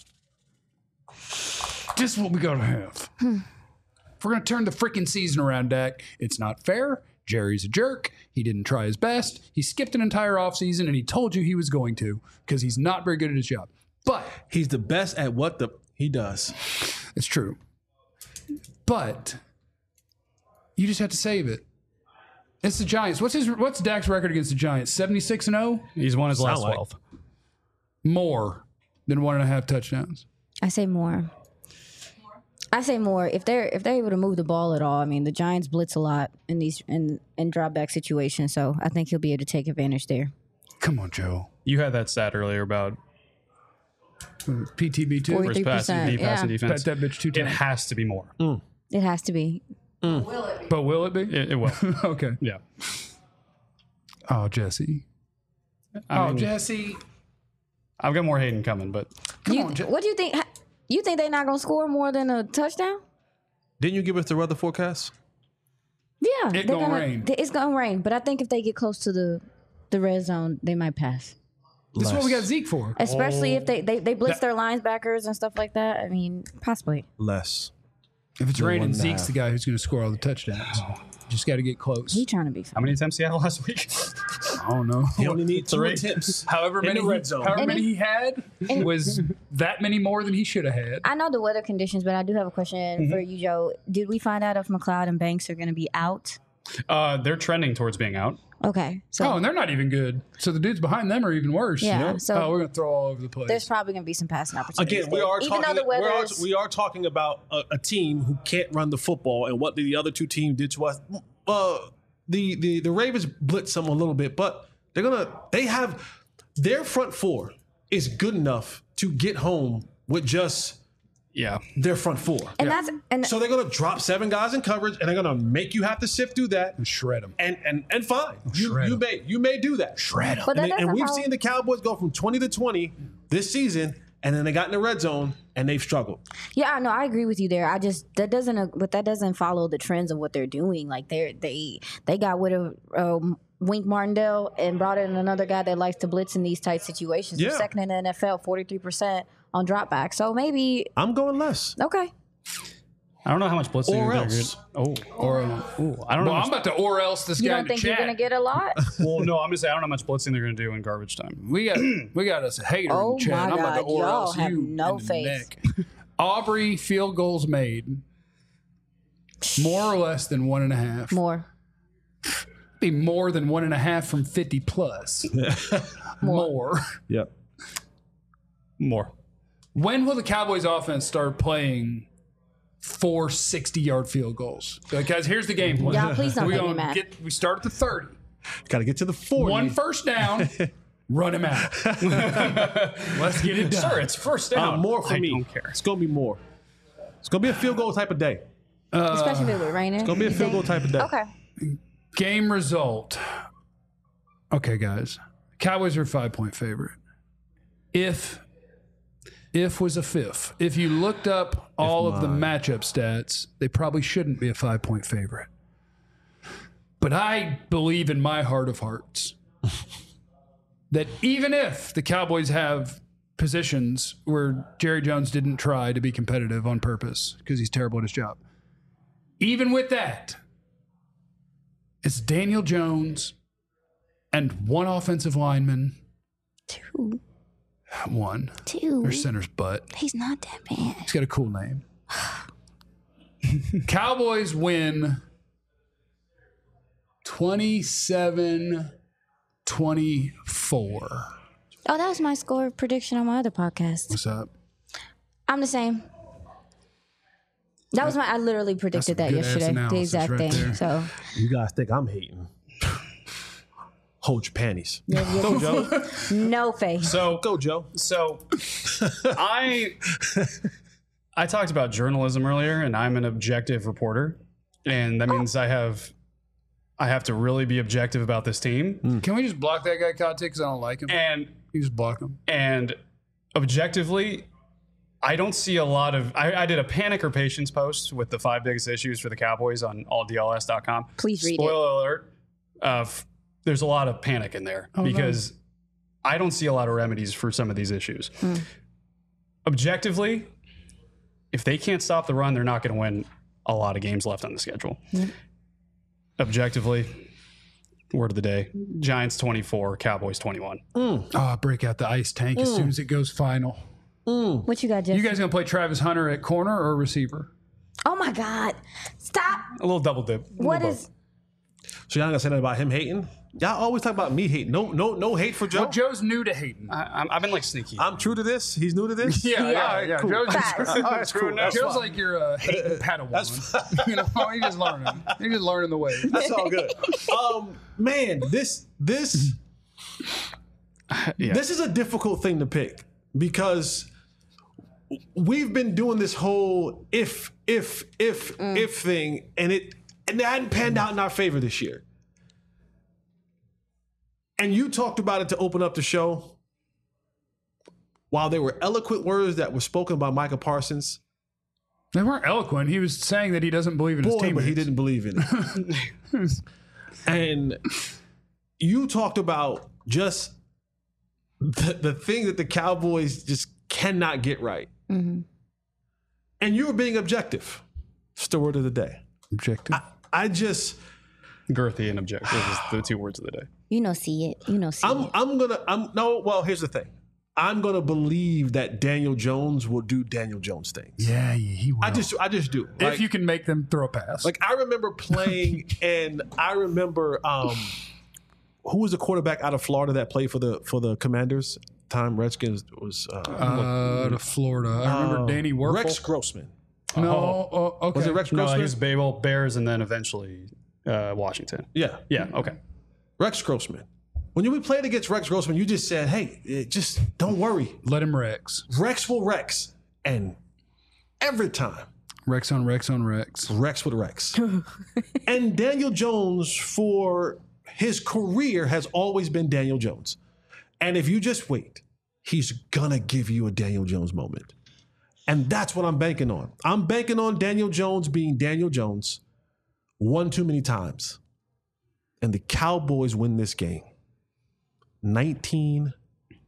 we gotta have. If we're gonna turn the freaking season around, Dak, it's not fair. Jerry's a jerk. He didn't try his best. He skipped an entire offseason and he told you he was going to because he's not very good at his job. But He's the best at what he does. it's true. But you just have to save it. It's the Giants. What's Dak's record against the Giants? 76-0? He's won his last Sound like. 12. More than 1.5 touchdowns. I say more. I say more. If they're able to move the ball at all, I mean, the Giants blitz a lot in these in drop back situations, so I think he'll be able to take advantage there. Come on, Joe. You had that stat earlier about PTB too. 40. first pass, 3%, pass and yeah. defense. Bet that bitch 2 It times. has to be more. It has to be. But will it be? It will. Okay. Yeah. Oh, Jesse. I mean, Jesse. I've got more Hayden coming, but What do you think? You think they're not gonna score more than a touchdown? Didn't you give us the weather forecast? Yeah, It's gonna rain. It's gonna rain, but I think if they get close to the red zone, they might pass. This is what we got Zeke for. Especially if they blitz their linebackers and stuff like that. I mean, possibly. Less. If it's raining, 1.5. Zeke's the guy who's going to score all the touchdowns. Just got to get close. He trying to be how funny. many attempts he had last week? I don't know. He only needs 2 Three. attempts. However In many, the red zone. however And many he had was that many more than he should have had. I know the weather conditions, but I do have a question for you, Joe. Did we find out if McLeod and Banks are going to be out? They're trending towards being out. Okay, so Oh, and they're not even good. So the dudes behind them are even worse. Yeah, so- we're going to throw all over the place. there's probably going to be some passing opportunities. Again, we there. are even talking. though the weather is, we are talking about a team who can't run the football, and what the other two teams did to us. The Ravens blitz them a little bit, but they have their front four is good enough to get home with just Yeah. their front four. and that's and So they're going to drop 7 guys in coverage, and they're going to make you have to sift through that. And shred them. And fine, Shred 'em. you may do that. Shred them. but that And doesn't we've follow- seen the Cowboys go from 20 to 20 this season, and then they got in the red zone and they've struggled. Yeah, no, I agree with you there. That doesn't follow the trends of what they're doing. Like they got rid of Wink Martindale and brought in another guy that likes to blitz in these tight situations. They're Yeah. second in the NFL, 43% on dropback. So maybe I'm going less. okay. I don't know how much blitzing Or they're else. good. I don't know. Well, how I'm much, about to or else this You guy don't in the think you're chat. gonna get a lot? well, no, I'm gonna say I don't know how much blitzing they're gonna do in garbage time. We got us a hater Oh in the chat. my I'm about to God, or y'all else have you no in the faith. neck. Aubrey field goals made. More or less than 1.5. More. Be more than 1.5 from 50 plus. More. Yep. More. When will the Cowboys offense start playing 4 60-yard field goals? Like, guys, here's the game plan. Y'all, please don't we make me gonna mad. we start at the 30. Got to get to the 40. 1 first down, run him out. Let's get it done. Sure, it's first down. More for I me. don't care. It's going to be more. It's going to be a field goal type of day. Especially if it was raining. It's going to be a field goal type of day. Okay. Game result. Okay, guys. Cowboys are a 5-point favorite. If was a fifth. If you looked up all of the matchup stats, they probably shouldn't be a 5-point favorite. But I believe in my heart of hearts that even if the Cowboys have positions where Jerry Jones didn't try to be competitive on purpose because he's terrible at his job, even with that, it's Daniel Jones and one offensive lineman 2. 1. 2. Their center's butt. He's not that bad. He's got a cool name. Cowboys win 27-24. Oh, that was my score prediction on my other podcast. What's up? I'm the same. That was I literally predicted that good-ass yesterday. The analysis exact right thing. there. So You guys think I'm hating? Hold your panties. yeah, Go, Joe. no face. So Go, Joe. So I talked about journalism earlier, and I'm an objective reporter, and that means I have to really be objective about this team. Can we just block that guy, Conte, because I don't like him? And You just block him. and objectively, I don't see a lot of. I did a panic or patience post with the 5 biggest issues for the Cowboys on alldls.com. Please read it. Spoiler alert. There's a lot of panic in there because I don't see a lot of remedies for some of these issues. Objectively, if they can't stop the run, they're not going to win a lot of games left on the schedule. Objectively, word of the day, Giants 24, Cowboys 21. Break out the ice tank as soon as it goes final. What you got, Jeff? You guys going to play Travis Hunter at corner or receiver? Oh my God! Stop. A little double dip. What is? So y'all not gonna say nothing about him hating? Y'all always talk about me hating. No hate for Joe. Well, Joe's new to hating. I've been like sneaky. I'm true to this. He's new to this. Yeah. Cool. Joe's, Facts. That's cool. That's Joe's fine. like your hating Padawan. You know, he's just learning. He's just learning the way. That's all good. Man, this is a difficult thing to pick because we've been doing this whole if thing, and it hadn't panned out in our favor this year. And you talked about it to open up the show. While there were eloquent words that were spoken by Micah Parsons, They weren't eloquent. He was saying that he doesn't believe in his team. but he didn't believe in it. And you talked about just the thing that the Cowboys just cannot get right. And you were being objective. It's the word of the day. Objective. I just, Girthy and objective is the 2 words of the day. See it. well, here's the thing. I'm going to believe that Daniel Jones will do Daniel Jones things. Yeah, he will. I just do. if you can make them throw a pass. Like, I remember playing, and I remember who was the quarterback out of Florida that played for the Commanders? Time Redskins was to Florida. I remember Danny Werfel. Rex Grossman. No, okay. Was it Rex No, Grossman? he was Babel, Bears, and then eventually Washington. Yeah, Yeah, okay. Rex Grossman. When you played against Rex Grossman, you just said, "Hey, just don't worry. Let him Rex. Rex will Rex." And every time, Rex on Rex on Rex. Rex would Rex. And Daniel Jones, for his career, has always been Daniel Jones. And if you just wait, he's gonna give you a Daniel Jones moment. And that's what I'm banking on. I'm banking on Daniel Jones being Daniel Jones one too many times. And the Cowboys win this game. 19-14.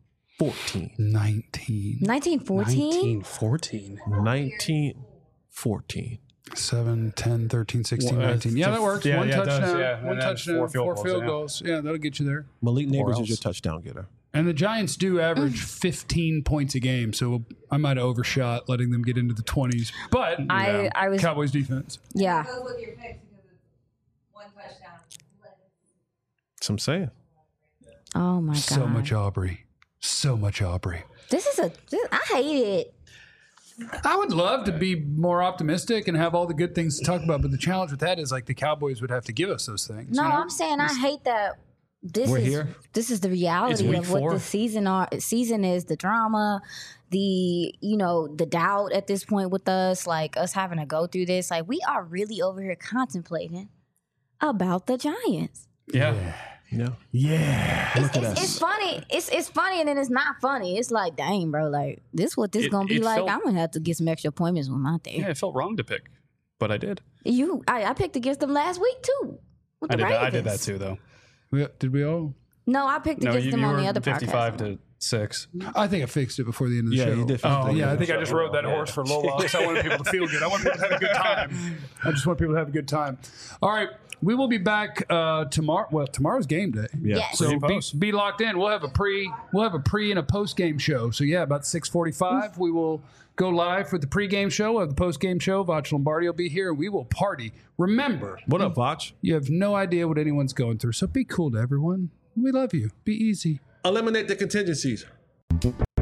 1914. 1914. 19-14. 7, 10, 13, 16, Well, 19. Yeah, that works. yeah, One yeah, it does, touchdown. yeah. One And then touchdown. 4 field 4 goals, field yeah. goals. Yeah, that'll get you there. Malik Neighbors else. is your touchdown getter. And the Giants do average 15 points a game, so I might have overshot letting them get into the 20s. But I was Cowboys defense. yeah. Goes with your picks because it's 1 touchdown. That's what I'm saying. Oh my God. So much Aubrey. So much Aubrey. I hate it. I would love to be more optimistic and have all the good things to talk about, but the challenge with that is like the Cowboys would have to give us those things. No, you know? I'm saying I hate that. We're here. This is the reality week of what 4. the season is. The drama, the doubt at this point with us, like us having to go through this. Like we are really over here contemplating about the Giants. Yeah. Yeah. Look at It's us. funny. It's funny and then it's not funny. It's like, dang, bro, like this what this gonna be it like. felt- I'm gonna have to get some extra appointments when I'm out there. Yeah, it felt wrong to pick, but I did. I picked against them last week too. With I the did that Ravens. too, though. Did we all? No, I picked No, against you them on were the other 55 podcast. 6. I think I fixed it before the end of the show. Yeah, you did. I think I just rode that horse for a little while because I wanted people to feel good. I wanted people to have a good time. I just want people to have a good time. All right. We will be back tomorrow. Well, tomorrow's game day. Yeah. Yes. So be locked in. We'll have a pre and a post game show. So yeah, about 6:45 we will go live for the pre-game show. We'll have the post-game show. Vach Lombardi will be here, and we will party. Remember, What up, Vach? you have no idea what anyone's going through, so be cool to everyone. We love you. Be easy. Eliminate the contingencies.